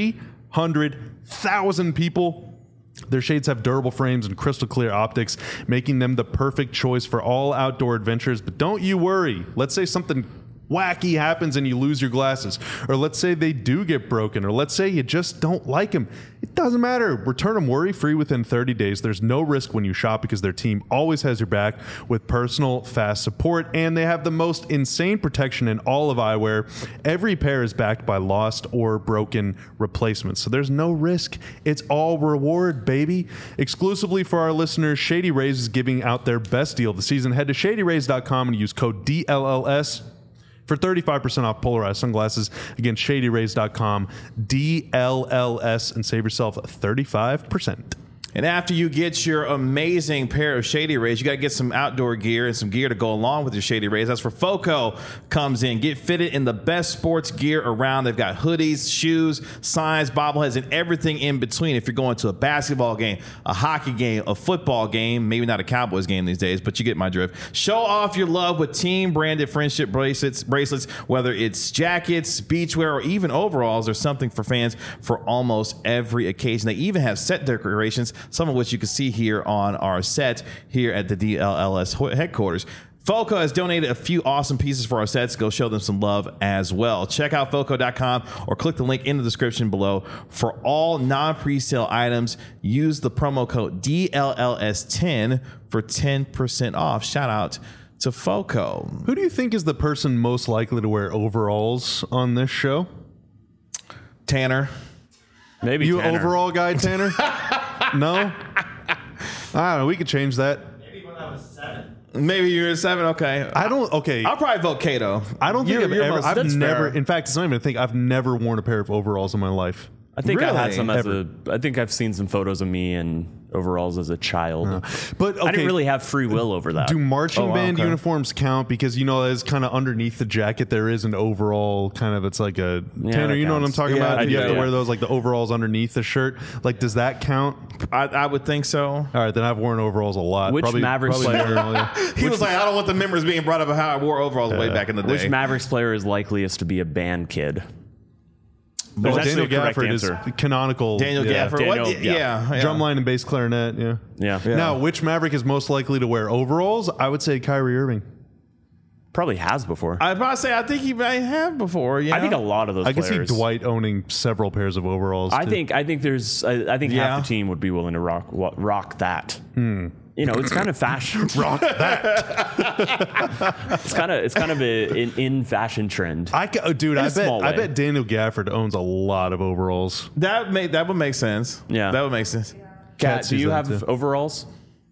300,000 people. Their shades have durable frames and crystal clear optics, making them the perfect choice for all outdoor adventures. But don't you worry. Let's say something wacky happens and you lose your glasses, or let's say they do get broken, or let's say you just don't like them. It doesn't matter. Return them worry-free within 30 days. There's no risk when you shop because their team always has your back with personal, fast support, and they have the most insane protection in all of eyewear. Every pair is backed by lost or broken replacements, so there's no risk. It's all reward, baby. Exclusively for our listeners, Shady Rays is giving out their best deal of the season. Head to shadyrays.com and use code DLLS for 35% off polarized sunglasses. Again, shadyrays.com, DLLS, and save yourself 35%. And after you get your amazing pair of Shady Rays, you got to get some outdoor gear and some gear to go along with your Shady Rays. That's where FOCO comes in. Get fitted in the best sports gear around. They've got hoodies, shoes, signs, bobbleheads, and everything in between. If you're going to a basketball game, a hockey game, a football game, maybe not a Cowboys game these days, but you get my drift. Show off your love with team-branded friendship bracelets, whether it's jackets, beachwear, or even overalls. There's something for fans for almost every occasion. They even have set decorations, some of which you can see here on our set here at the DLLS headquarters. FOCO has donated a few awesome pieces for our sets. Go show them some love as well. Check out FOCO.com or click the link in the description below. For all non-presale items, use the promo code DLLS10 for 10% off. Shout out to FOCO. Who do you think is the person most likely to wear overalls on this show? Tanner. Maybe you Tanner. Overall guy, Tanner? No? I don't know. We could change that. Maybe when I was 7. Maybe you're at 7. Okay. I'll probably vote Cato. I don't think I've never, fair. in fact, it's not even a thing. I've never worn a pair of overalls in my life. I think Really? I had some I think I've seen some photos of me in overalls as a child. But okay, I didn't really have free will over that. do marching band okay. uniforms count? Because, as kind of underneath the jacket, there is an overall kind of, it's like a, Tanner, that you know what I'm counts. talking Yeah, about? I You have do, to wear yeah. those, like the overalls underneath the shirt. Like, does that count? I would think so. All right, then I've worn overalls a lot. Which Mavericks player- more, yeah. He was like, I don't want the memories being brought up of how I wore overalls way back in the day. Which Mavericks player is likeliest to be a band kid? Well, There's Daniel actually a correct Gafford is answer. canonical. Daniel yeah. Gafford. Daniel, What? yeah. Yeah. Drumline and bass clarinet, yeah. Yeah. Now, which Maverick is most likely to wear overalls? I would say Kyrie Irving. Probably has before. I'd probably say I think he might have before. I think a lot of those I can players. see Dwight owning several pairs of overalls. I too. think Yeah. half the team would be willing to rock that. It's kind of fashion. rock that. It's kind of an in fashion trend. Dude, In a I small way. bet Daniel Gafford owns a lot of overalls. that would make sense. Yeah. That would make sense. Kat, do sees you that have too. overalls?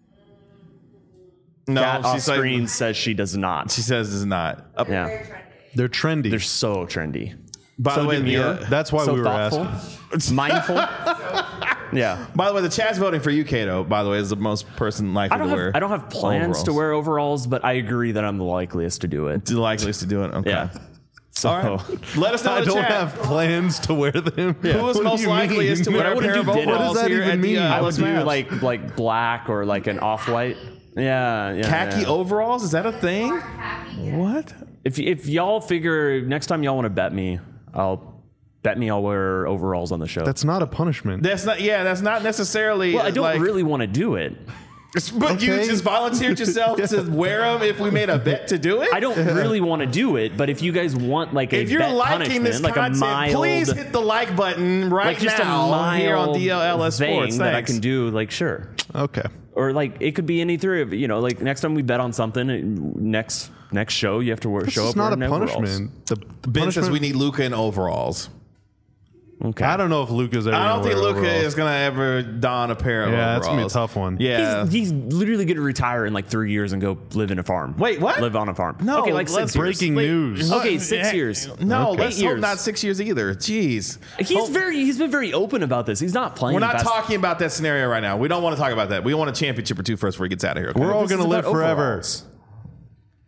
No, Kat off she's like- screen says she does not. she says it's not. Yeah, They're trendy. they're so trendy. By the way, That's why So we were thoughtful, asking. mindful. Yeah. By the way, the chat's voting for you, Cato. By the way, is the most person likely to wear. I don't have plans to wear overalls, but I agree that I'm the likeliest to do it. The likeliest to do it. Okay. Yeah. So All right. Let us know I in the don't chat. have plans to wear them. Who is What do most you likely mean? is to wear I a wouldn't pair of do dinner. overalls What does that here even at mean? the I would Alex do Mavs? like black or like an off-white. Yeah. khaki yeah. overalls. Is that a thing? What? If y'all figure next time y'all want to bet me, I'll wear overalls on the show. That's not a punishment. That's not. Yeah, that's not necessarily. well, I don't like, really want to do it. But you Okay. just volunteered yourself to wear them if we made a bet to do it. I don't really want to do it, but if you guys want like a If you're bet liking this punishment, like content, a mild, please hit the like button right like just now a mild here on DLLS thing Sports. that I Thanks. can do, like sure. Okay. Or like it could be any three of like next time we bet on something, next show you have to This show is up not a wearing overalls. punishment. The Ben says punishment. we need Luka in overalls. Okay. I don't know if Luca's ever. I don't gonna think wear Luka overalls. is gonna ever don a pair of overalls. Yeah, that's gonna be a tough one. Yeah. He's literally going to retire in like 3 years and go live in a farm. Wait, what? Live on a farm. No, Okay, like let's- 6 years. Breaking news. Okay, 6 years. No, Okay. let's 8 hope years. not 6 years either. Jeez. He's been very open about this. He's not playing. We're not fast- talking about that scenario right now. We don't want to talk about that. We want a championship or two first before he gets out of here. Okay? We're all This gonna is live about forever. overalls.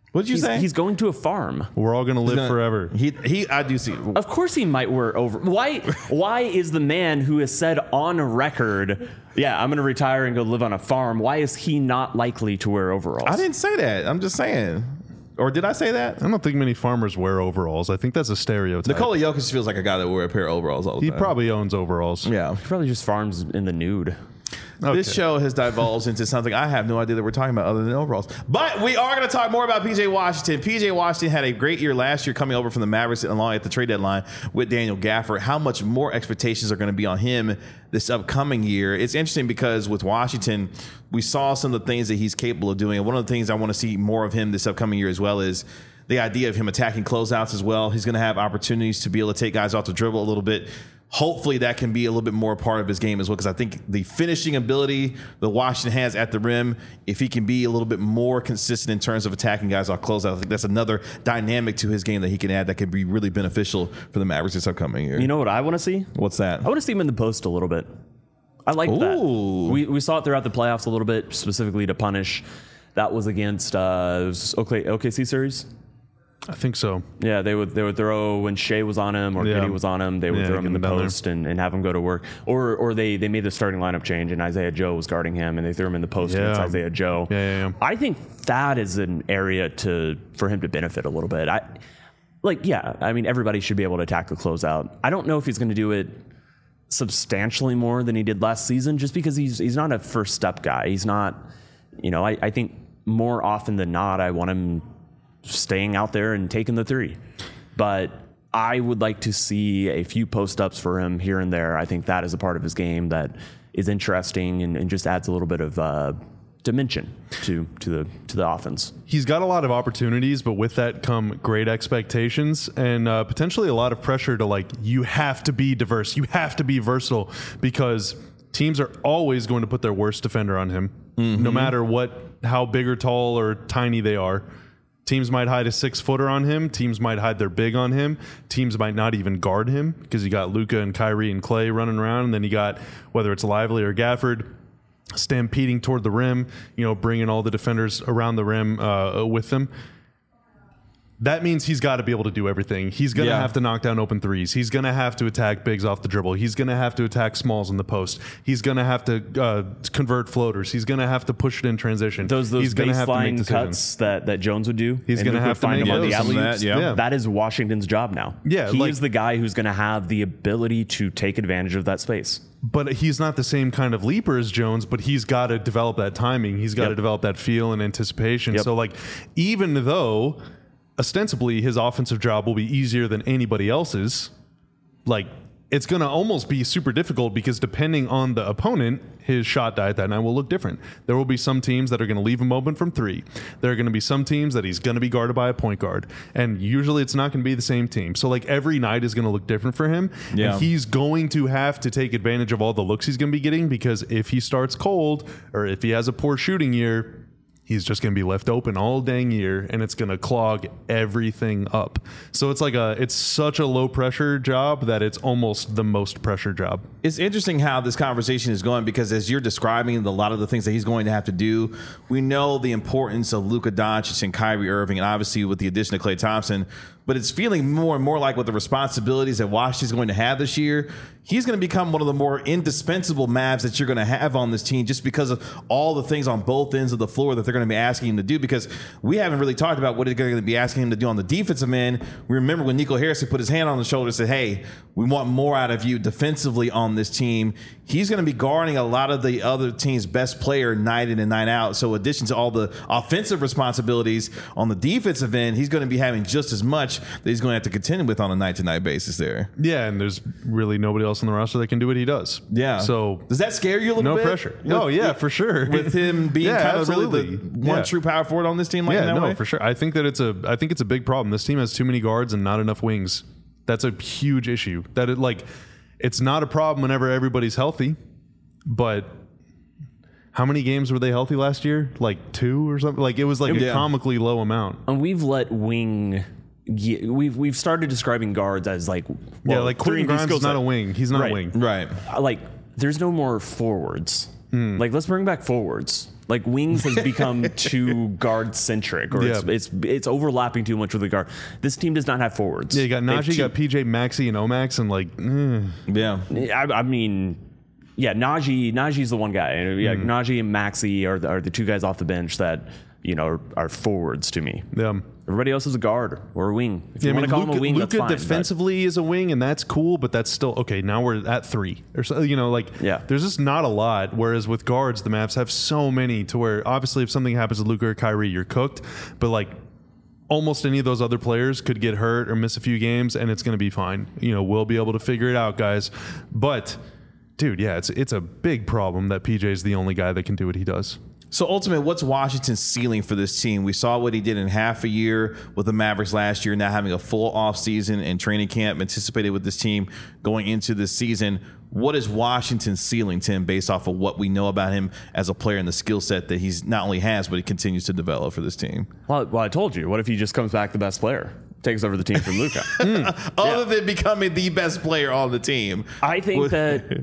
What did you say? He's going to a farm. We're all going to live forever. I do see. Of course he might wear over. Why is the man who has said on record, yeah, I'm going to retire and go live on a farm, why is he not likely to wear overalls? I didn't say that. I'm just saying. Or did I say that? I don't think many farmers wear overalls. I think that's a stereotype. Nikola Jokic feels like a guy that wear a pair of overalls all the He time. probably owns overalls. Yeah. He probably just farms in the nude. Okay. This show has divulged into something I have no idea that we're talking about other than overalls. But we are going to talk more about PJ Washington. PJ Washington had a great year last year coming over from the Mavericks along at the trade deadline with Daniel Gafford. How much more expectations are going to be on him this upcoming year? It's interesting because with Washington, we saw some of the things that he's capable of doing. And one of the things I want to see more of him this upcoming year as well is the idea of him attacking closeouts as well. He's going to have opportunities to be able to take guys off the dribble a little bit. Hopefully that can be a little bit more a part of his game as well, because I think the finishing ability that Washington has at the rim, if he can be a little bit more consistent in terms of attacking guys off closeout, I think that's another dynamic to his game that he can add that could be really beneficial for the Mavericks this upcoming year. You know what I want to see? What's that? I want to see him in the post a little bit. I like that. We saw it throughout the playoffs a little bit, specifically to punish. That was against OKC series. I think so. Yeah, they would throw when Shea was on him or Giddey was on him. They would throw him in the post and have him go to work. Or they made the starting lineup change and Isaiah Joe was guarding him and they threw him in the post against Isaiah Joe. Yeah. I think that is an area for him to benefit a little bit. I mean, everybody should be able to attack the closeout. I don't know if he's going to do it substantially more than he did last season, just because he's not a first step guy. He's not, I think more often than not, I want him staying out there and taking the three. But I would like to see a few post-ups for him here and there. I think that is a part of his game that is interesting and just adds a little bit of dimension to the offense. He's got a lot of opportunities, but with that come great expectations and potentially a lot of pressure to you have to be diverse. You have to be versatile because teams are always going to put their worst defender on him, no matter how big or tall or tiny they are. Teams might hide a 6-footer on him. Teams might hide their big on him. Teams might not even guard him because you got Luka and Kyrie and Clay running around. And then you got, whether it's Lively or Gafford, stampeding toward the rim, bringing all the defenders around the rim with them. That means he's got to be able to do everything. He's going to have to knock down open threes. He's going to have to attack bigs off the dribble. He's going to have to attack smalls in the post. He's going to have to convert floaters. He's going to have to push it in transition. Those he's baseline cuts that Jones would do. He's going to have to make them on the those. alley-oops. That is Washington's job now. Yeah, he is the guy who's going to have the ability to take advantage of that space. But he's not the same kind of leaper as Jones, but he's got to develop that timing. He's got to develop that feel and anticipation. So even though ostensibly his offensive job will be easier than anybody else's, it's going to almost be super difficult because depending on the opponent, his shot diet that night will look different. There will be some teams that are going to leave him open from three. There are going to be some teams that he's going to be guarded by a point guard. And usually it's not going to be the same team. So every night is going to look different for him. Yeah. And he's going to have to take advantage of all the looks he's going to be getting, because if he starts cold or if he has a poor shooting year, he's just going to be left open all dang year, and it's going to clog everything up. So it's such a low pressure job that it's almost the most pressure job. It's interesting how this conversation is going, because as you're describing a lot of the things that he's going to have to do, we know the importance of Luka Doncic and Kyrie Irving, and obviously with the addition of Klay Thompson. But it's feeling more and more like with the responsibilities that Washington's going to have this year, he's going to become one of the more indispensable Mavs that you're going to have on this team, just because of all the things on both ends of the floor that they're going to be asking him to do. Because we haven't really talked about what they're going to be asking him to do on the defensive end. We remember when Nico Harrison put his hand on the shoulder and said, hey, we want more out of you defensively on this team. He's going to be guarding a lot of the other team's best player night in and night out. So in addition to all the offensive responsibilities on the defensive end, he's going to be having just as much that he's going to have to contend with on a night-to-night basis there. Yeah, and there's really nobody else on the roster that can do what he does. Yeah. So does that scare you a little bit? No pressure. Oh, yeah, for sure. With him being kind of really the one true power forward on this team that way? For sure. I think it's a big problem. This team has too many guards and not enough wings. That's a huge issue. It's not a problem whenever everybody's healthy, but how many games were they healthy last year? 2 or something? It was a comically low amount. And we've let wing... We've started describing guards as Quentin Grimes is not a wing. He's not a wing. Right. There's no more forwards. Let's bring back forwards. Like wings has become too guard centric, or it's overlapping too much with the guard. This team does not have forwards. Yeah, you got Najee, you got PJ, Maxey, and Omax, and like, I mean, yeah, Najee's the one guy. Yeah, Najee and Maxey are the two guys off the bench that are forwards to me. Yeah. Everybody else is a guard or a wing. If you want to call him a wing, Luka that's fine. Defensively is a wing, and that's cool, but that's still okay. Now we're at 3 or so. There's just not a lot. Whereas with guards, the Mavs have so many to where obviously if something happens to Luka or Kyrie, you're cooked. But like almost any of those other players could get hurt or miss a few games, and it's going to be fine. We'll be able to figure it out, guys. But dude, yeah, it's a big problem that PJ is the only guy that can do what he does. So ultimately, what's Washington's ceiling for this team? We saw what he did in half a year with the Mavericks last year, now having a full offseason and training camp anticipated with this team going into this season. What is Washington's ceiling, Tim, based off of what we know about him as a player and the skill set that he's not only has, but he continues to develop for this team? Well, I told you. What if he just comes back the best player? Takes over the team from Luka. Other than becoming the best player on the team. I think that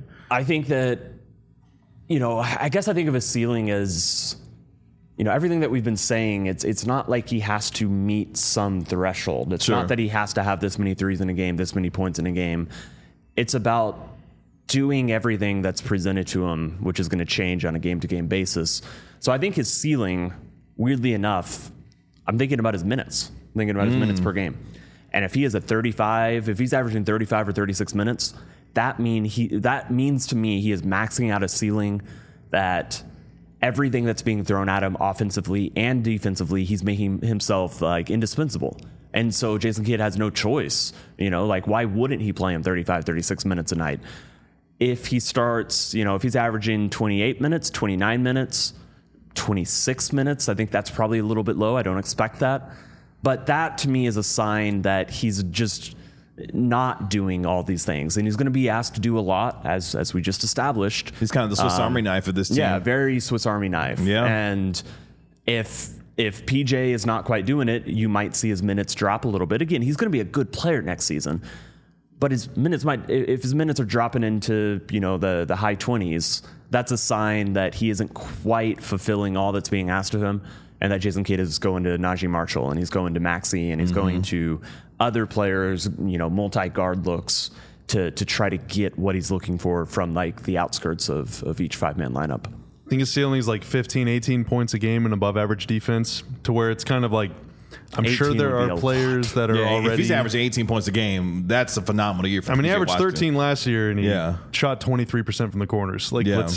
I guess I think of his ceiling as, everything that we've been saying. It's not like he has to meet some threshold. It's not that he has to have this many threes in a game, this many points in a game. It's about doing everything that's presented to him, which is going to change on a game-to-game basis. So I think his ceiling, weirdly enough, I'm thinking about his minutes. I'm thinking about his minutes per game. And if he is if he's averaging 35 or 36 minutes, that means to me he is maxing out a ceiling that everything that's being thrown at him offensively and defensively, he's making himself like indispensable. And so Jason Kidd has no choice. Why wouldn't he play him 35, 36 minutes a night? If he starts, if he's averaging 28 minutes, 29 minutes, 26 minutes, I think that's probably a little bit low. I don't expect that. But that to me is a sign that he's just not doing all these things, and he's going to be asked to do a lot, as we just established. He's kind of the Swiss Army knife of this team. Yeah, very Swiss Army knife. Yeah, and if PJ is not quite doing it, you might see his minutes drop a little bit. Again, he's going to be a good player next season, but his minutes if his minutes are dropping into the high 20s, that's a sign that he isn't quite fulfilling all that's being asked of him. And that Jason Kidd is going to Najee Marshall, and he's going to Maxey, and he's going to other players, multi-guard looks to try to get what he's looking for from like the outskirts of each 5-man lineup. I think his ceiling is like 15, 18 points a game and above average defense, to where it's kind of like, I'm sure there are players that are already. If he's averaging 18 points a game, that's a phenomenal year for he averaged 13 last year, and he shot 23% from the corners.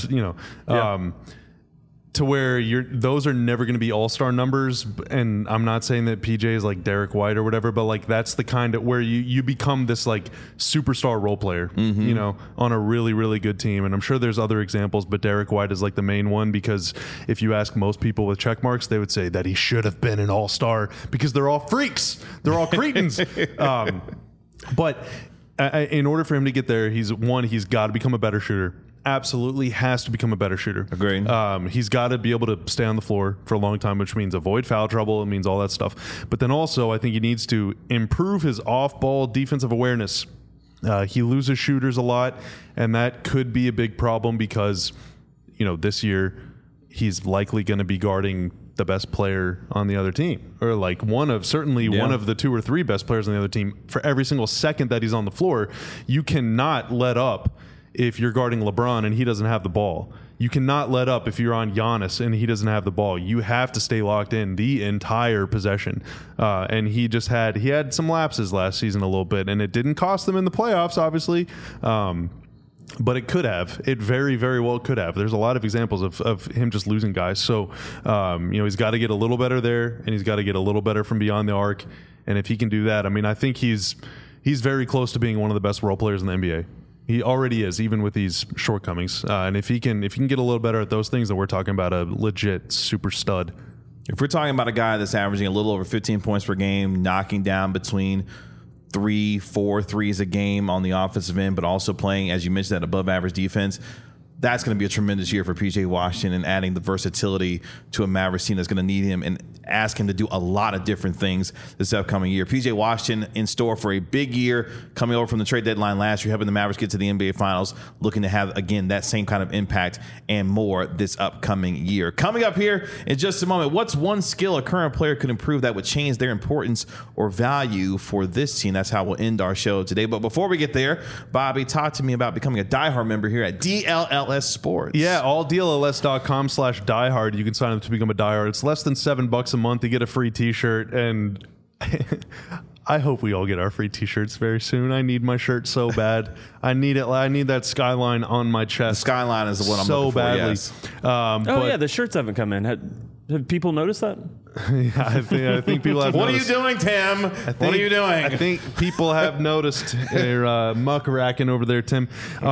To where those are never going to be all-star numbers, and I'm not saying that PJ is like Derek White or whatever, but like that's the kind of where you become this like superstar role player, on a really, really good team. And I'm sure there's other examples, but Derek White is like the main one, because if you ask most people with check marks, they would say that he should have been an all-star because they're all freaks, they're all cretins. But in order for him to get there, he's got to become a better shooter. Absolutely has to become a better shooter. Agreed. He's got to be able to stay on the floor for a long time, which means avoid foul trouble. It means all that stuff. But then also, I think he needs to improve his off-ball defensive awareness. He loses shooters a lot, and that could be a big problem because, this year he's likely going to be guarding the best player on the other team, or like one of the 2 or 3 best players on the other team for every single second that he's on the floor. You cannot let up if you're guarding LeBron and he doesn't have the ball. You cannot let up if you're on Giannis and he doesn't have the ball. You have to stay locked in the entire possession. And he had some lapses last season a little bit, and it didn't cost them in the playoffs, obviously. But it could have. It very, very well could have. There's a lot of examples of him just losing guys. So, he's got to get a little better there, and he's got to get a little better from beyond the arc. And if he can do that, I think he's very close to being one of the best role players in the NBA. He already is, even with these shortcomings. And if he can get a little better at those things, then we're talking about a legit super stud. If we're talking about a guy that's averaging a little over 15 points per game, knocking down between 3-4 threes a game on the offensive end, but also playing, as you mentioned, that above average defense, that's going to be a tremendous year for PJ Washington, and adding the versatility to a Mavericks team that's going to need him and ask him to do a lot of different things this upcoming year. PJ Washington in store for a big year, coming over from the trade deadline last year, helping the Mavericks get to the NBA Finals, looking to have, again, that same kind of impact and more this upcoming year. Coming up here in just a moment, what's one skill a current player could improve that would change their importance or value for this team? That's how we'll end our show today. But before we get there, Bobby, talk to me about becoming a diehard member here at DLLS Sports. Yeah, alldlls.com/diehard. You can sign up to become a diehard. It's less than $7 a month to get a free t-shirt, and I hope we all get our free t-shirts very soon. I need my shirt so bad. I need it. I need that skyline on my chest. The skyline is the one I'm so looking for, badly. yes. Yeah, the shirts haven't come in. Have people noticed that? Yeah, I think people have What noticed. are you doing, Tim? What are you doing? I think people have noticed. They're muck racking over there, Tim.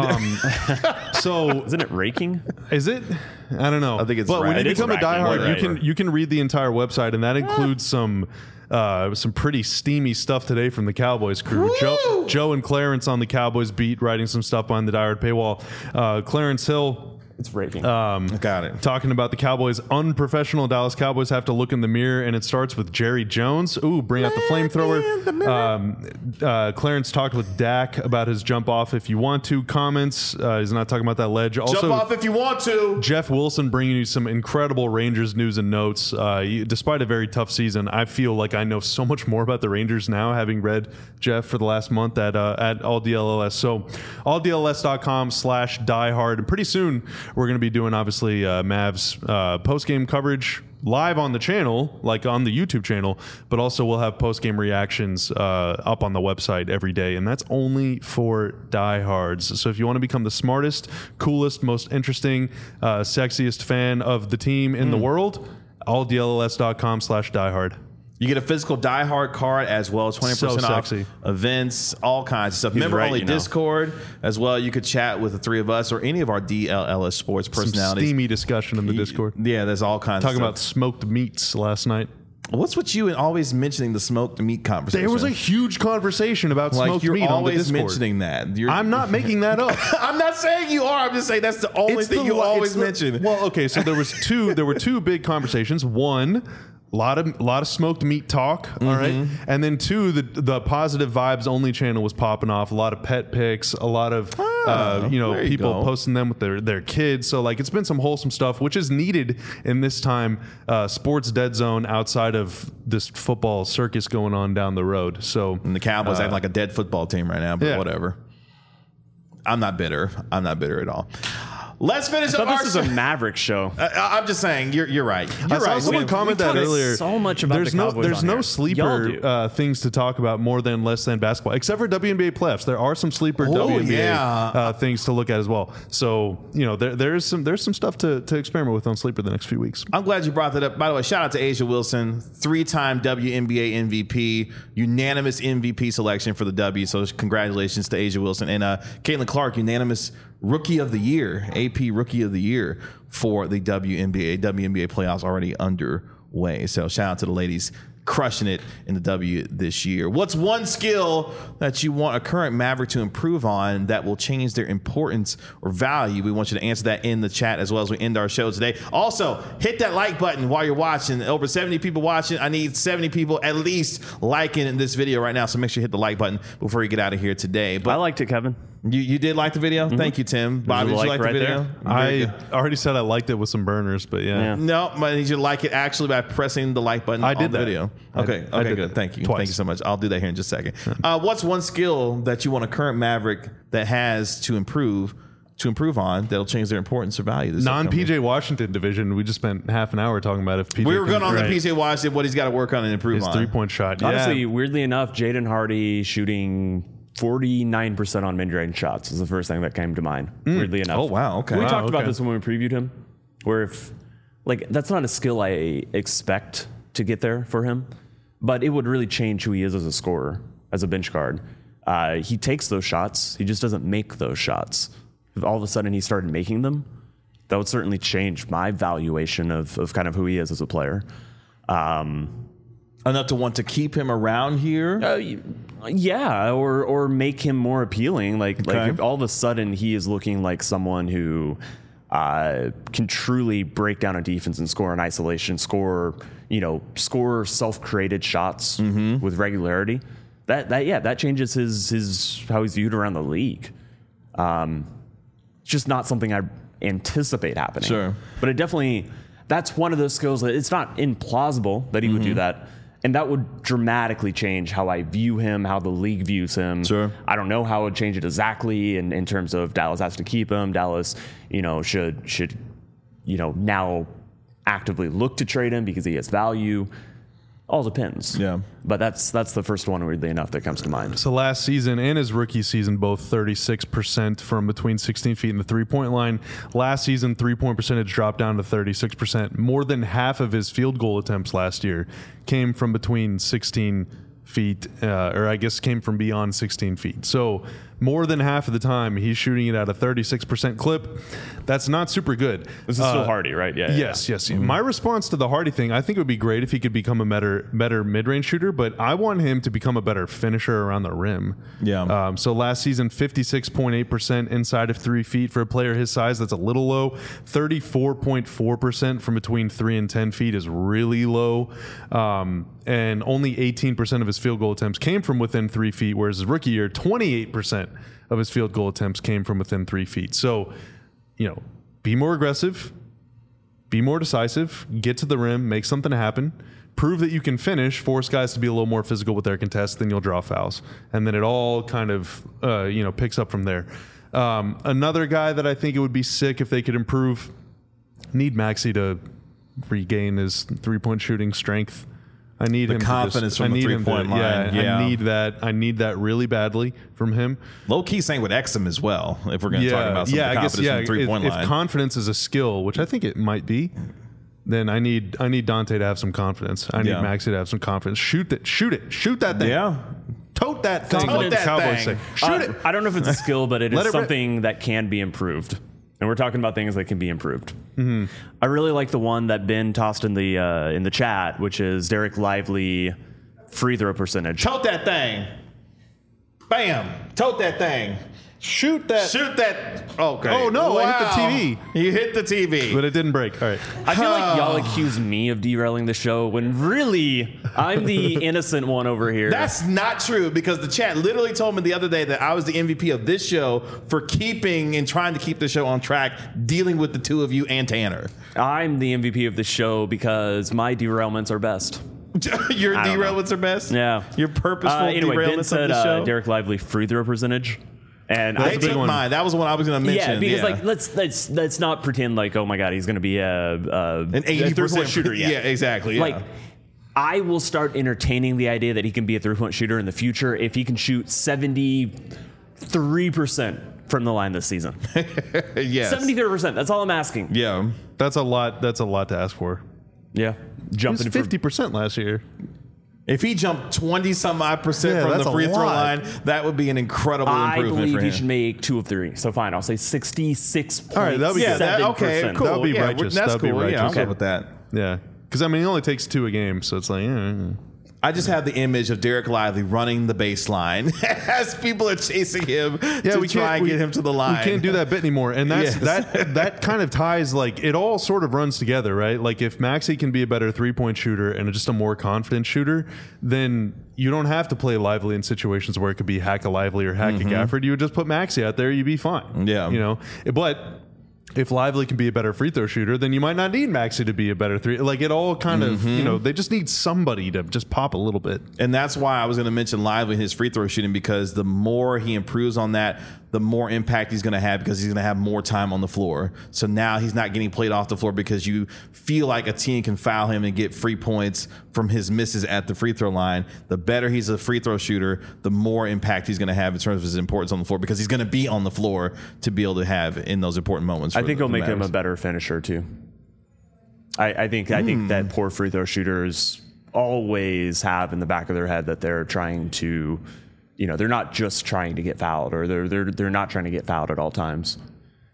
So Isn't it raking? is it? I don't know. I think it's But when right. you It is become a racking, diehard, right. you can read the entire website, and that includes some pretty steamy stuff today from the Cowboys crew. Joe and Clarence on the Cowboys beat, writing some stuff on the diehard paywall. Clarence Hill. It's raking. Got it. Talking about the Cowboys, unprofessional Dallas Cowboys have to look in the mirror, and it starts with Jerry Jones. Ooh, bring out the flamethrower. Clarence talked with Dak about his jump off if you want to. Comments. He's not talking about that ledge. Also, Jump off if you want to. Jeff Wilson bringing you some incredible Rangers news and notes. Despite a very tough season, I feel like I know so much more about the Rangers now, having read Jeff for the last month at All DLLS. So alldlls.com/diehard. And pretty soon, we're going to be doing, obviously, Mavs post-game coverage live on the channel, like on the YouTube channel, but also we'll have post-game reactions up on the website every day, and that's only for diehards. So if you want to become the smartest, coolest, most interesting, sexiest fan of the team in the world, alldlls.com/diehard. You get a physical diehard card as well, 20% So off sexy. events, all kinds of stuff. Member right, only you know. Discord as well. You could chat with the three of us or any of our DLLS sports Some personalities. steamy discussion in the Discord. Yeah, there's all kinds Talking of about stuff. smoked meats last night. What's with you and always mentioning the smoked meat conversation? There was a huge conversation about like smoked you're meat on the always Discord. mentioning that. I'm not making that up. I'm not saying you are. I'm just saying that's the only thing you always mention. Well, okay, so there were two big conversations. One, a lot of smoked meat talk, all right, and then two, the positive vibes only channel was popping off. A lot of pet pics, a lot of there you people go. posting them with their kids. So like it's been some wholesome stuff, which is needed in this time sports dead zone outside of this football circus going on down the road. So And the Cowboys act like a dead football team right now, but yeah. whatever. I'm not bitter. I'm not bitter at all. Let's finish I up thought our this is a Maverick show. I'm just saying, you're right. You're I saw right. someone comment that talk earlier. so much about there's the no Cowboys there's on no here. Y'all sleeper do. things to talk about more than less than basketball, except for WNBA playoffs. There are some sleeper WNBA things to look at as well. So there's some stuff to experiment with on sleeper the next few weeks. I'm glad you brought that up. By the way, shout out to A'ja Wilson, 3-time WNBA MVP, unanimous MVP selection for the W. So congratulations to A'ja Wilson. And Caitlin Clark, unanimous Rookie of the Year, AP Rookie of the Year for the WNBA. WNBA playoffs already underway. So shout out to the ladies crushing it in the W this year. What's one skill that you want a current Maverick to improve on that will change their importance or value? We want you to answer that in the chat as well as we end our show today. Also, hit that like button while you're watching. Over 70 people watching. I need 70 people at least liking this video right now. So make sure you hit the like button before you get out of here today. But I liked it, Kevin. you did like the video? Thank you, Tim. Bobby, did you like the right video? there. I already said I liked it with some burners, but yeah. No, but I need you to like it actually by pressing the like button I did on the that. video. I Okay, did good. that Thank you. twice. Thank you so much. I'll do that here in just a second. What's one skill that you want a current Maverick that has to improve on that'll change their importance or value? This upcoming year? Non-PJ Washington division, we just spent half an hour talking about if PJ We were can- going on Right. the PJ Washington, what he's got to work on and improve his on. three-point shot. Honestly, yeah. weirdly enough, Jaden Hardy shooting 49% on mid-range shots is the first thing that came to mind. Weirdly enough. Oh, wow. Okay. We Wow, talked about okay. this when we previewed him, where if that's not a skill I expect to get there for him, but it would really change who he is as a scorer, as a bench guard. He takes those shots. He just doesn't make those shots. If all of a sudden he started making them, that would certainly change my valuation of kind of who he is as a player. Enough to want to keep him around here? Yeah, or make him more appealing. Like if all of a sudden he is looking like someone who can truly break down a defense and score in isolation, score self-created shots with regularity. That changes his how he's viewed around the league. It's just not something I anticipate happening. Sure, but it definitely, that's one of those skills that it's not implausible that he would do that. And that would dramatically change how I view him, how the league views him. Sure. I don't know how it would change it exactly in terms of Dallas has to keep him. Dallas, should now actively look to trade him because he has value. All depends. Yeah. But that's the first one, weirdly enough, that comes to mind. So last season and his rookie season, both 36% from between 16 feet and the three-point line. Last season, three-point percentage dropped down to 36%. More than half of his field goal attempts last year came from between 16 feet, came from beyond 16 feet. So more than half of the time, he's shooting it at a 36% clip. That's not super good. This is still Hardy, right? Yeah. Yes. My response to the Hardy thing, I think it would be great if he could become a better mid-range shooter, but I want him to become a better finisher around the rim. Yeah. So last season, 56.8% inside of 3 feet for a player his size. That's a little low. 34.4% from between 3 and 10 feet is really low. And only 18% of his field goal attempts came from within 3 feet, whereas his rookie year, 28% of his field goal attempts came from within 3 feet. So, be more aggressive, be more decisive, get to the rim, make something happen, prove that you can finish, force guys to be a little more physical with their contests, then you'll draw fouls. And then it all kind of, picks up from there. Another guy that I think it would be sick if they could improve, need Maxey to regain his three-point shooting strength. I need him confidence from the 3-point line. Yeah. I need that really badly from him. Low key same with Exum as well. If we're going to talk about some of the confidence from the 3-point line. If confidence is a skill, which I think it might be, then I need Dante to have some confidence. I need Maxey to have some confidence. Shoot it. Shoot that thing. Yeah. Tote that thing. Tote that Cowboys thing. say. Shoot it. I don't know if it's a skill, but it is something that can be improved. And we're talking about things that can be improved. Mm-hmm. I really like the one that Ben tossed in the chat, which is Derek Lively free throw percentage. Tote that thing. Bam. Tote that thing. Shoot that. Okay. Oh, no. Wow. I hit the TV. You hit the TV. But it didn't break. All right. I feel like y'all accuse me of derailing the show when really I'm the innocent one over here. That's not true, because the chat literally told me the other day that I was the MVP of this show for keeping and trying to keep the show on track, dealing with the two of you and Tanner. I'm the MVP of the show because my derailments are best. Your derailments are best? Yeah. Your purposeful anyway, Ben derailments said, of the show? Derek Lively free throw percentage. And they took mine. That was the one I was going to mention. Yeah, because let's not pretend like, oh my God, he's going to be an 80% shooter yet. Yeah, exactly. Yeah. Like, I will start entertaining the idea that he can be a 3-point shooter in the future if he can shoot 73% from the line this season. Yes. 73%. That's all I'm asking. Yeah. That's a lot to ask for. Yeah. Jumping 50% last year. If he jumped 20-some-odd% from the free throw line, that would be an incredible improvement for him. I believe he should make 2 of 3. So fine, I'll say 66.7%. All right, that'll be okay, cool. That'll be righteous. That's that'll cool. Be righteous. Yeah, I'm good with that. Yeah, because I mean, he only takes 2 a game, so it's like. I just have the image of Derek Lively running the baseline as people are chasing him to try and get him to the line. We can't do that bit anymore. And that's that kind of ties, like, it all sort of runs together, right? Like, if Maxey can be a better 3-point shooter and just a more confident shooter, then you don't have to play Lively in situations where it could be hack a Lively or hack a Gafford. You would just put Maxey out there, you'd be fine. Yeah. But if Lively can be a better free throw shooter, then you might not need Maxey to be a better three. Like, it all kind of, they just need somebody to just pop a little bit. And that's why I was going to mention Lively and his free throw shooting, because the more he improves on that, the more impact he's going to have, because he's going to have more time on the floor. So now he's not getting played off the floor because you feel like a team can foul him and get free points from his misses at the free throw line. The better he's a free throw shooter, the more impact he's going to have in terms of his importance on the floor, because he's going to be on the floor to be able to have in those important moments. I think it'll make him a better finisher too. I think that poor free throw shooters always have in the back of their head that they're trying to, they're not just trying to get fouled, or they're not trying to get fouled at all times.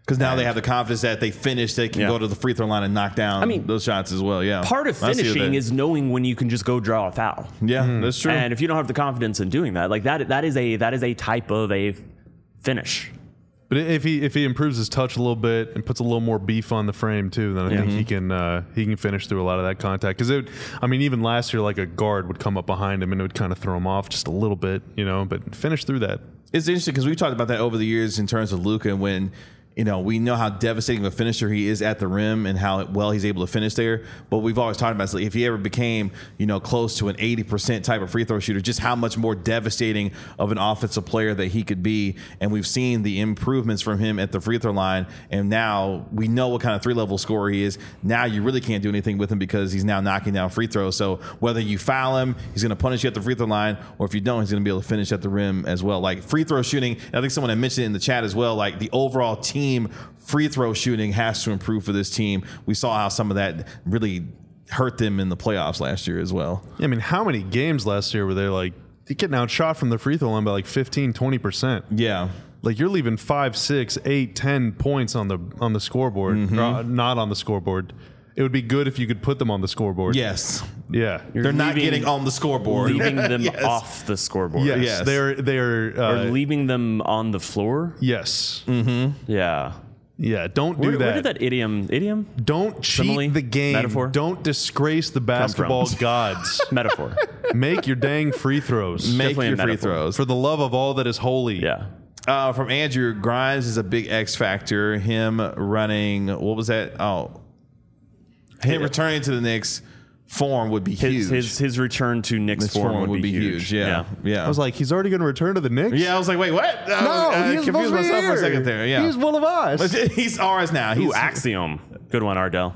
Because now they have the confidence that they finish, they can go to the free throw line and knock down those shots as well. Yeah, part of finishing is knowing when you can just go draw a foul. Yeah, that's true. And if you don't have the confidence in doing that, like that is a type of a finish. But if he improves his touch a little bit and puts a little more beef on the frame too, then I think he can finish through a lot of that contact. Because even last year, like a guard would come up behind him and it would kind of throw him off just a little bit, but finish through that. It's interesting because we've talked about that over the years in terms of Luka, and when we know how devastating of a finisher he is at the rim and how well he's able to finish there. But we've always talked about if he ever became, close to an 80% type of free throw shooter, just how much more devastating of an offensive player that he could be. And we've seen the improvements from him at the free throw line. And now we know what kind of 3-level scorer he is. Now you really can't do anything with him because he's now knocking down free throws. So whether you foul him, he's going to punish you at the free throw line, or if you don't, he's going to be able to finish at the rim as well. Like free throw shooting, I think someone had mentioned it in the chat as well, like the overall team free throw shooting has to improve for this team. We saw how some of that really hurt them in the playoffs last year as well. I mean, how many games last year were they getting outshot from the free throw line by 15, 20%? Yeah. Like you're leaving 5, 6, 8, 10 points on the scoreboard, not on the scoreboard. It would be good if you could put them on the scoreboard. Yes. Yeah. They're not getting on the scoreboard. Leaving them off the scoreboard. Yes. They're or leaving them on the floor. Yes. Mm-hmm. Yeah. Yeah. Don't do that. Where did that idiom? Don't cheat simile, the game. Metaphor? Don't disgrace the basketball gods. Metaphor. Make your dang free throws. Make your free throws. For the love of all that is holy. Yeah. From Andrew, Grimes is a big X factor. Him running, what was that? Him returning to the Knicks form would be huge. His return to Knicks form would be huge. Yeah. I was like, he's already going to return to the Knicks? Yeah, I was like, wait, what? I confused myself for a second there. Yeah. He's one of us. He's ours now. He's Axiom. Good one, Ardell.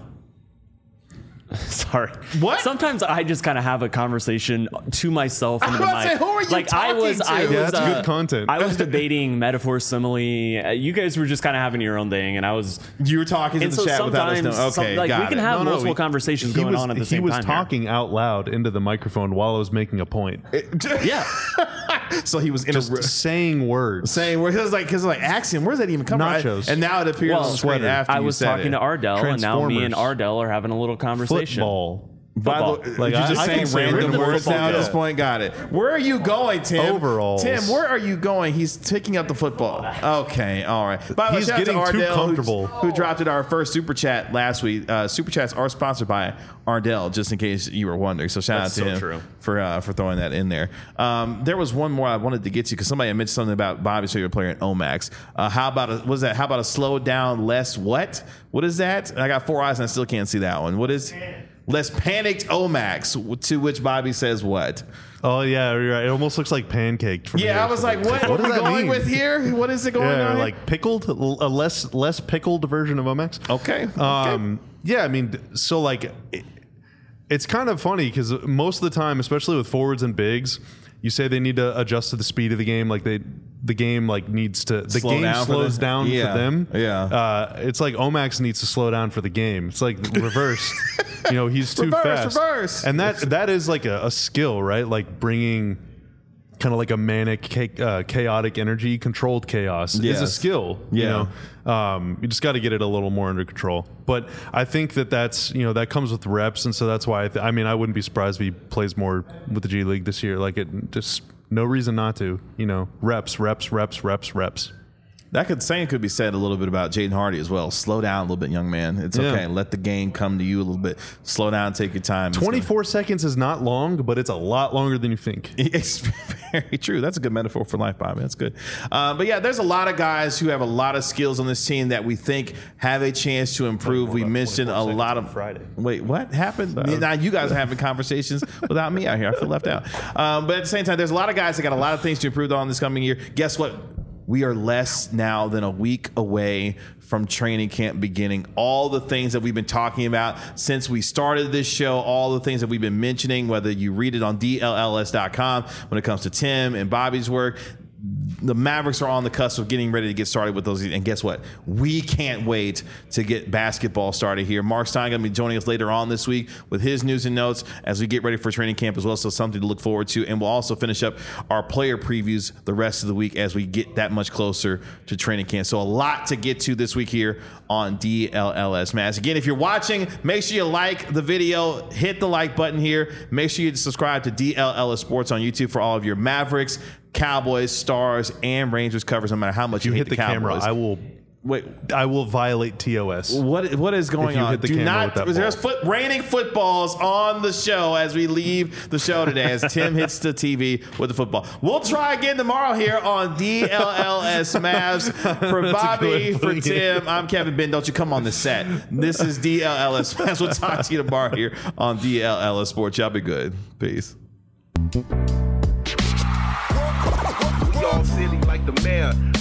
Sorry. What? Sometimes I just kind of have a conversation to myself into the mic. Say, who are you talking to? That's good content. I was debating metaphor, simile. You guys were just kind of having your own thing, and you were talking to the chat without us knowing. Okay, we can have multiple conversations going on at the same time. He was talking out loud into the microphone while I was making a point. Yeah. So he was just saying words. Because like Axiom, where does that even come from? Nachos. And now it appears on the screen after I was talking to Ardell, and now me and Ardell are having a little conversation. Football. Like you're just saying random words now at this point. Got it. Where are you going, Tim? Overalls. Tim, where are you going? He's picking up the football. Okay, all right. By the way, he's shout out getting to Ardell, too comfortable. who dropped in our first super chat last week. Super chats are sponsored by Ardell, just in case you were wondering. So shout out to him for throwing that in there. There was one more I wanted to get to because somebody had mentioned something about Bobby's favorite player in Omax. How about a slowed down less what? What is that? I got 4 eyes and I still can't see that one. What is? Less panicked Omax, to which Bobby says what? Oh, yeah, you're right. It almost looks like pancaked. From I was like, what are we going with here? What is it going on? Like pickled, a less pickled version of Omax. Okay. Yeah, I mean, so like, it's kind of funny because most of the time, especially with forwards and bigs, you say they need to adjust to the speed of the game. Like the game needs to slows down for them. Yeah. It's like Omax needs to slow down for the game. It's like reversed. He's too fast. Reverse. And that is like a skill, right? Like bringing kind of like a manic, chaotic energy, controlled chaos is a skill. You just got to get it a little more under control. But I think that's that comes with reps, and so that's why I wouldn't be surprised if he plays more with the G League this year. Like it just no reason not to. Reps. That same could be said a little bit about Jaden Hardy as well. Slow down a little bit, young man. It's okay. Let the game come to you a little bit. Slow down, take your time. 24 seconds is not long, but it's a lot longer than you think. It's very true. That's a good metaphor for life, Bobby. That's good. But yeah, there's a lot of guys who have a lot of skills on this team that we think have a chance to improve. We mentioned a lot of Friday. Wait, what happened? Now you guys are having conversations without me out here. I feel left out. But at the same time, there's a lot of guys that got a lot of things to improve on this coming year. Guess what? We are less now than a week away from training camp beginning. All the things that we've been talking about since we started this show, all the things that we've been mentioning, whether you read it on DLLS.com when it comes to Tim and Bobby's work, the Mavericks are on the cusp of getting ready to get started with those. And guess what? We can't wait to get basketball started here. Mark Stein going to be joining us later on this week with his news and notes as we get ready for training camp as well. So something to look forward to. And we'll also finish up our player previews the rest of the week as we get that much closer to training camp. So a lot to get to this week here on DLLS Mavs. Again, if you're watching, make sure you like the video, hit the like button here. Make sure you subscribe to DLLS Sports on YouTube for all of your Mavericks, Cowboys, Stars, and Rangers covers, no matter how much you hate the Cowboys. Camera, I will violate TOS. What is going on? Do not. There's raining footballs on the show as we leave the show today. As Tim hits the TV with the football. We'll try again tomorrow here on DLLS Mavs. For Bobby, for Tim, I'm Kevin Ben. Don't you come on the set? This is DLLS Mavs. We'll talk to you tomorrow here on DLLS Sports. Y'all be good. Peace. Y'all silly like the mayor.